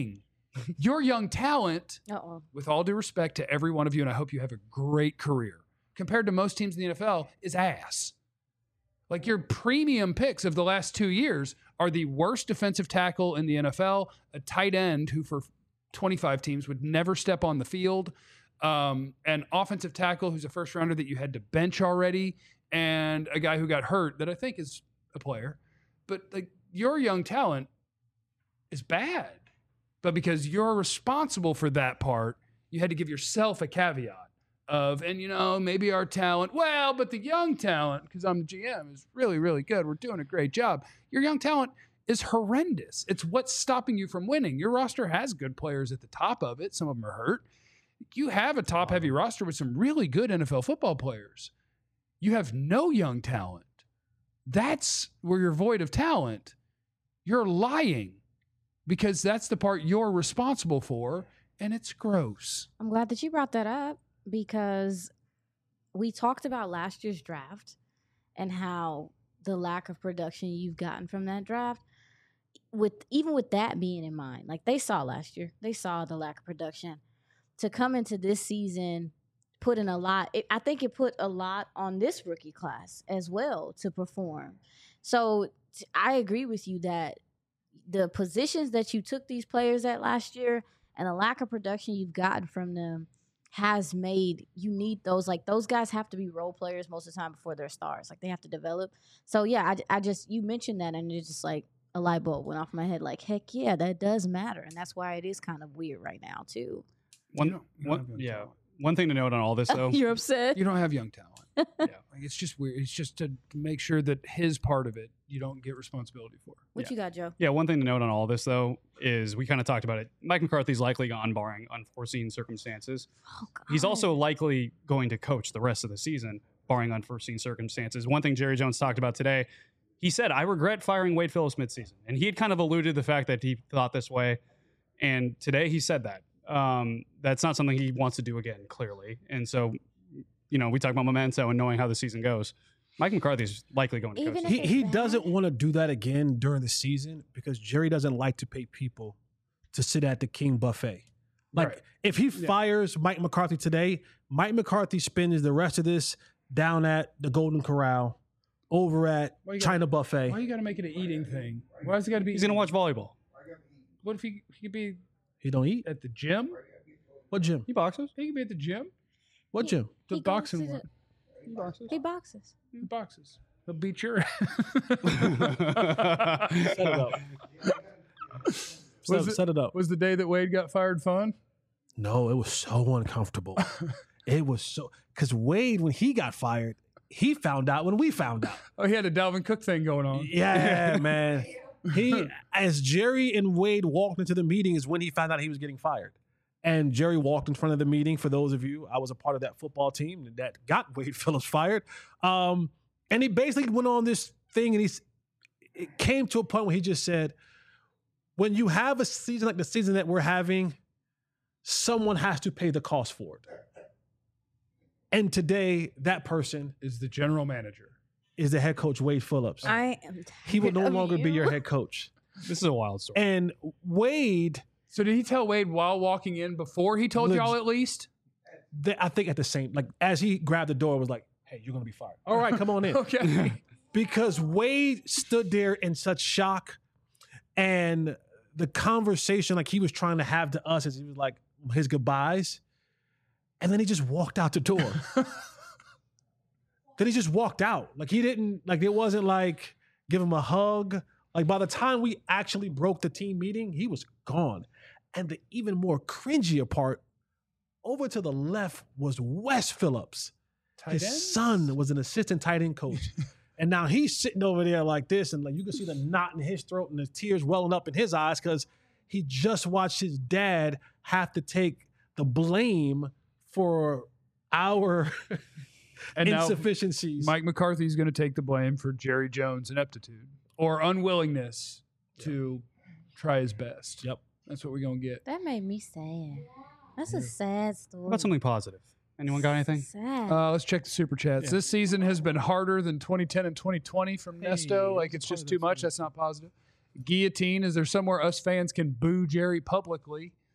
Your young talent, Uh-oh. with all due respect to every one of you, and I hope you have a great career, compared to most teams in the NFL, is ass. Like your premium picks of the last 2 years are the worst defensive tackle in the NFL, a tight end who for 25 teams would never step on the field, an offensive tackle who's a first rounder that you had to bench already, and a guy who got hurt that I think is a player. But like your young talent is bad. But because you're responsible for that part, you had to give yourself a caveat of, and maybe our talent, well, but the young talent, because I'm the GM, is really, really good. We're doing a great job. Your young talent is horrendous. It's what's stopping you from winning. Your roster has good players at the top of it. Some of them are hurt. You have a top-heavy roster with some really good NFL football players. You have no young talent. That's where you're void of talent. You're lying because that's the part you're responsible for, and it's gross. I'm glad that you brought that up because we talked about last year's draft and how the lack of production you've gotten from that draft. Even with that being in mind, like they saw last year, they saw the lack of production. To come into this season, put in a lot. I think it put a lot on this rookie class as well to perform. So I agree with you that the positions that you took these players at last year and the lack of production you've gotten from them has made you need those. Like those guys have to be role players most of the time before they're stars. Like they have to develop. So yeah, I just you mentioned that and it's just like a light bulb went off my head. Like heck yeah, that does matter, and that's why it is kind of weird right now too. One thing to note on all this though. You're upset. You don't have young talent. Yeah, like it's just weird. It's just to make sure that his part of it you don't get responsibility for. What you got, Joe? Yeah, one thing to note on all this though is we kind of talked about it. Mike McCarthy's likely gone barring unforeseen circumstances. Oh, God. He's also likely going to coach the rest of the season barring unforeseen circumstances. One thing Jerry Jones talked about today, he said, I regret firing Wade Phillips midseason. And he had kind of alluded to the fact that he thought this way. And today he said that. That's not something he wants to do again, clearly. And so, we talk about memento and knowing how the season goes. Mike McCarthy's likely going to coach. He doesn't want to do that again during the season because Jerry doesn't like to pay people to sit at the King buffet. Like Right. if he fires Mike McCarthy today, Mike McCarthy spends the rest of this down at the Golden Corral, over at China Buffet. Why you got to make it an eating thing? Why does it got to be? He's going to watch volleyball. What if he could be He don't eat. at the gym? What gym? He boxes. He could be at the gym. What gym? The He goes boxing to one. He boxes. He boxes. He'll beat your. Set it up. Set it up. Was the day that Wade got fired fun? No, it was so uncomfortable. It was so because Wade, when he got fired, he found out when we found out. Oh, he had a Dalvin Cook thing going on. Yeah, man. As Jerry and Wade walked into the meeting is when he found out he was getting fired. And Jerry walked in front of the meeting. For those of you, I was a part of that football team that got Wade Phillips fired. And he basically went on this thing and it came to a point where he just said, when you have a season like the season that we're having, someone has to pay the cost for it. And today, that person Is the general manager. is the head coach, Wade Phillips. I am. He will no tired of longer be you. your head coach. This is a wild story. And Wade, So did he tell Wade while walking in before he told y'all at least? I think at the same, like as he grabbed the door, was like, hey, you're going to be fired. All right, come on in. Okay. Because Wade stood there in such shock. And the conversation like he was trying to have to us as he was like his goodbyes. And then he just walked out the door. Then he just walked out. Like he didn't, like it wasn't like give him a hug. Like by the time we actually broke the team meeting, he was gone. And the even more cringier part, over to the left was Wes Phillips. Tight His end? son was an assistant tight end coach. And now he's sitting over there like this, and like you can see the knot in his throat and the tears welling up in his eyes because he just watched his dad have to take the blame for our And now insufficiencies. Mike McCarthy is going to take the blame for Jerry Jones' ineptitude or unwillingness to try his best. Yep. That's what we're going to get. That made me sad. That's a sad story. What about something positive? Anyone got anything? Sad. Let's check the super chats. Yeah. This season has been harder than 2010 and 2020 from Nesto. Like it's just too much. That's not positive. Guillotine, is there somewhere us fans can boo Jerry publicly?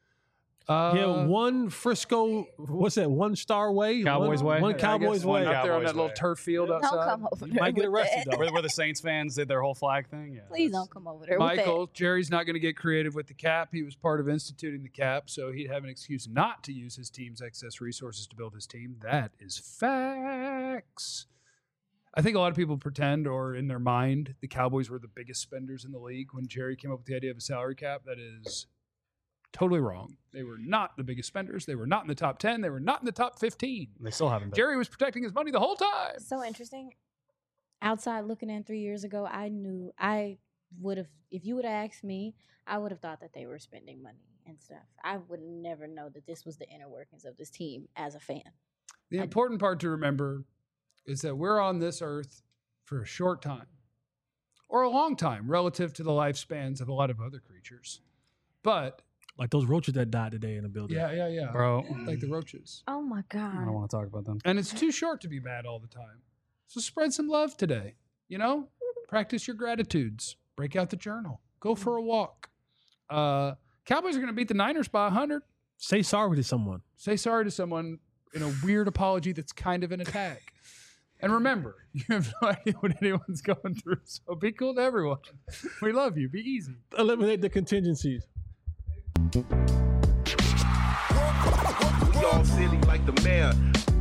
Yeah, one Frisco, what's that? One Star Way? Cowboys one, way? One Yeah, I Cowboys guess way. one Out there on Cowboys that little way. turf field Don't outside. come over You there. might get with arrested, that. though. Where the Saints fans did their whole flag thing. Yeah, Please that's- don't come over there. Michael, with Jerry's not going to get creative with the cap. He was part of instituting the cap, so he'd have an excuse not to use his team's excess resources to build his team. That is facts. I think a lot of people pretend, or in their mind, the Cowboys were the biggest spenders in the league when Jerry came up with the idea of a salary cap. That is totally wrong. They were not the biggest spenders. They were not in the top 10. They were not in the top 15. They still haven't been. Jerry was protecting his money the whole time. that. So interesting. Outside looking in 3 years ago, I knew I would have, if you would have asked me, I would have thought that they were spending money and stuff. I would never know that this was the inner workings of this team as a fan. The important part to remember is that we're on this earth for a short time or a long time relative to the lifespans of a lot of other creatures. But Like those roaches that died today in the building. yeah. Bro, Like the roaches. Oh my I don't God. want to talk about them. And it's too short to be mad all the time. So spread some love today. You know, practice your gratitudes. Break out the journal. Go for a walk. Cowboys are going to beat the Niners by 100. Say sorry to someone. Say sorry to someone in a weird apology that's kind of an attack. And remember, you have no idea what anyone's going through. So be cool to everyone. We love you. Be easy. Eliminate the contingencies. We all silly like the mayor.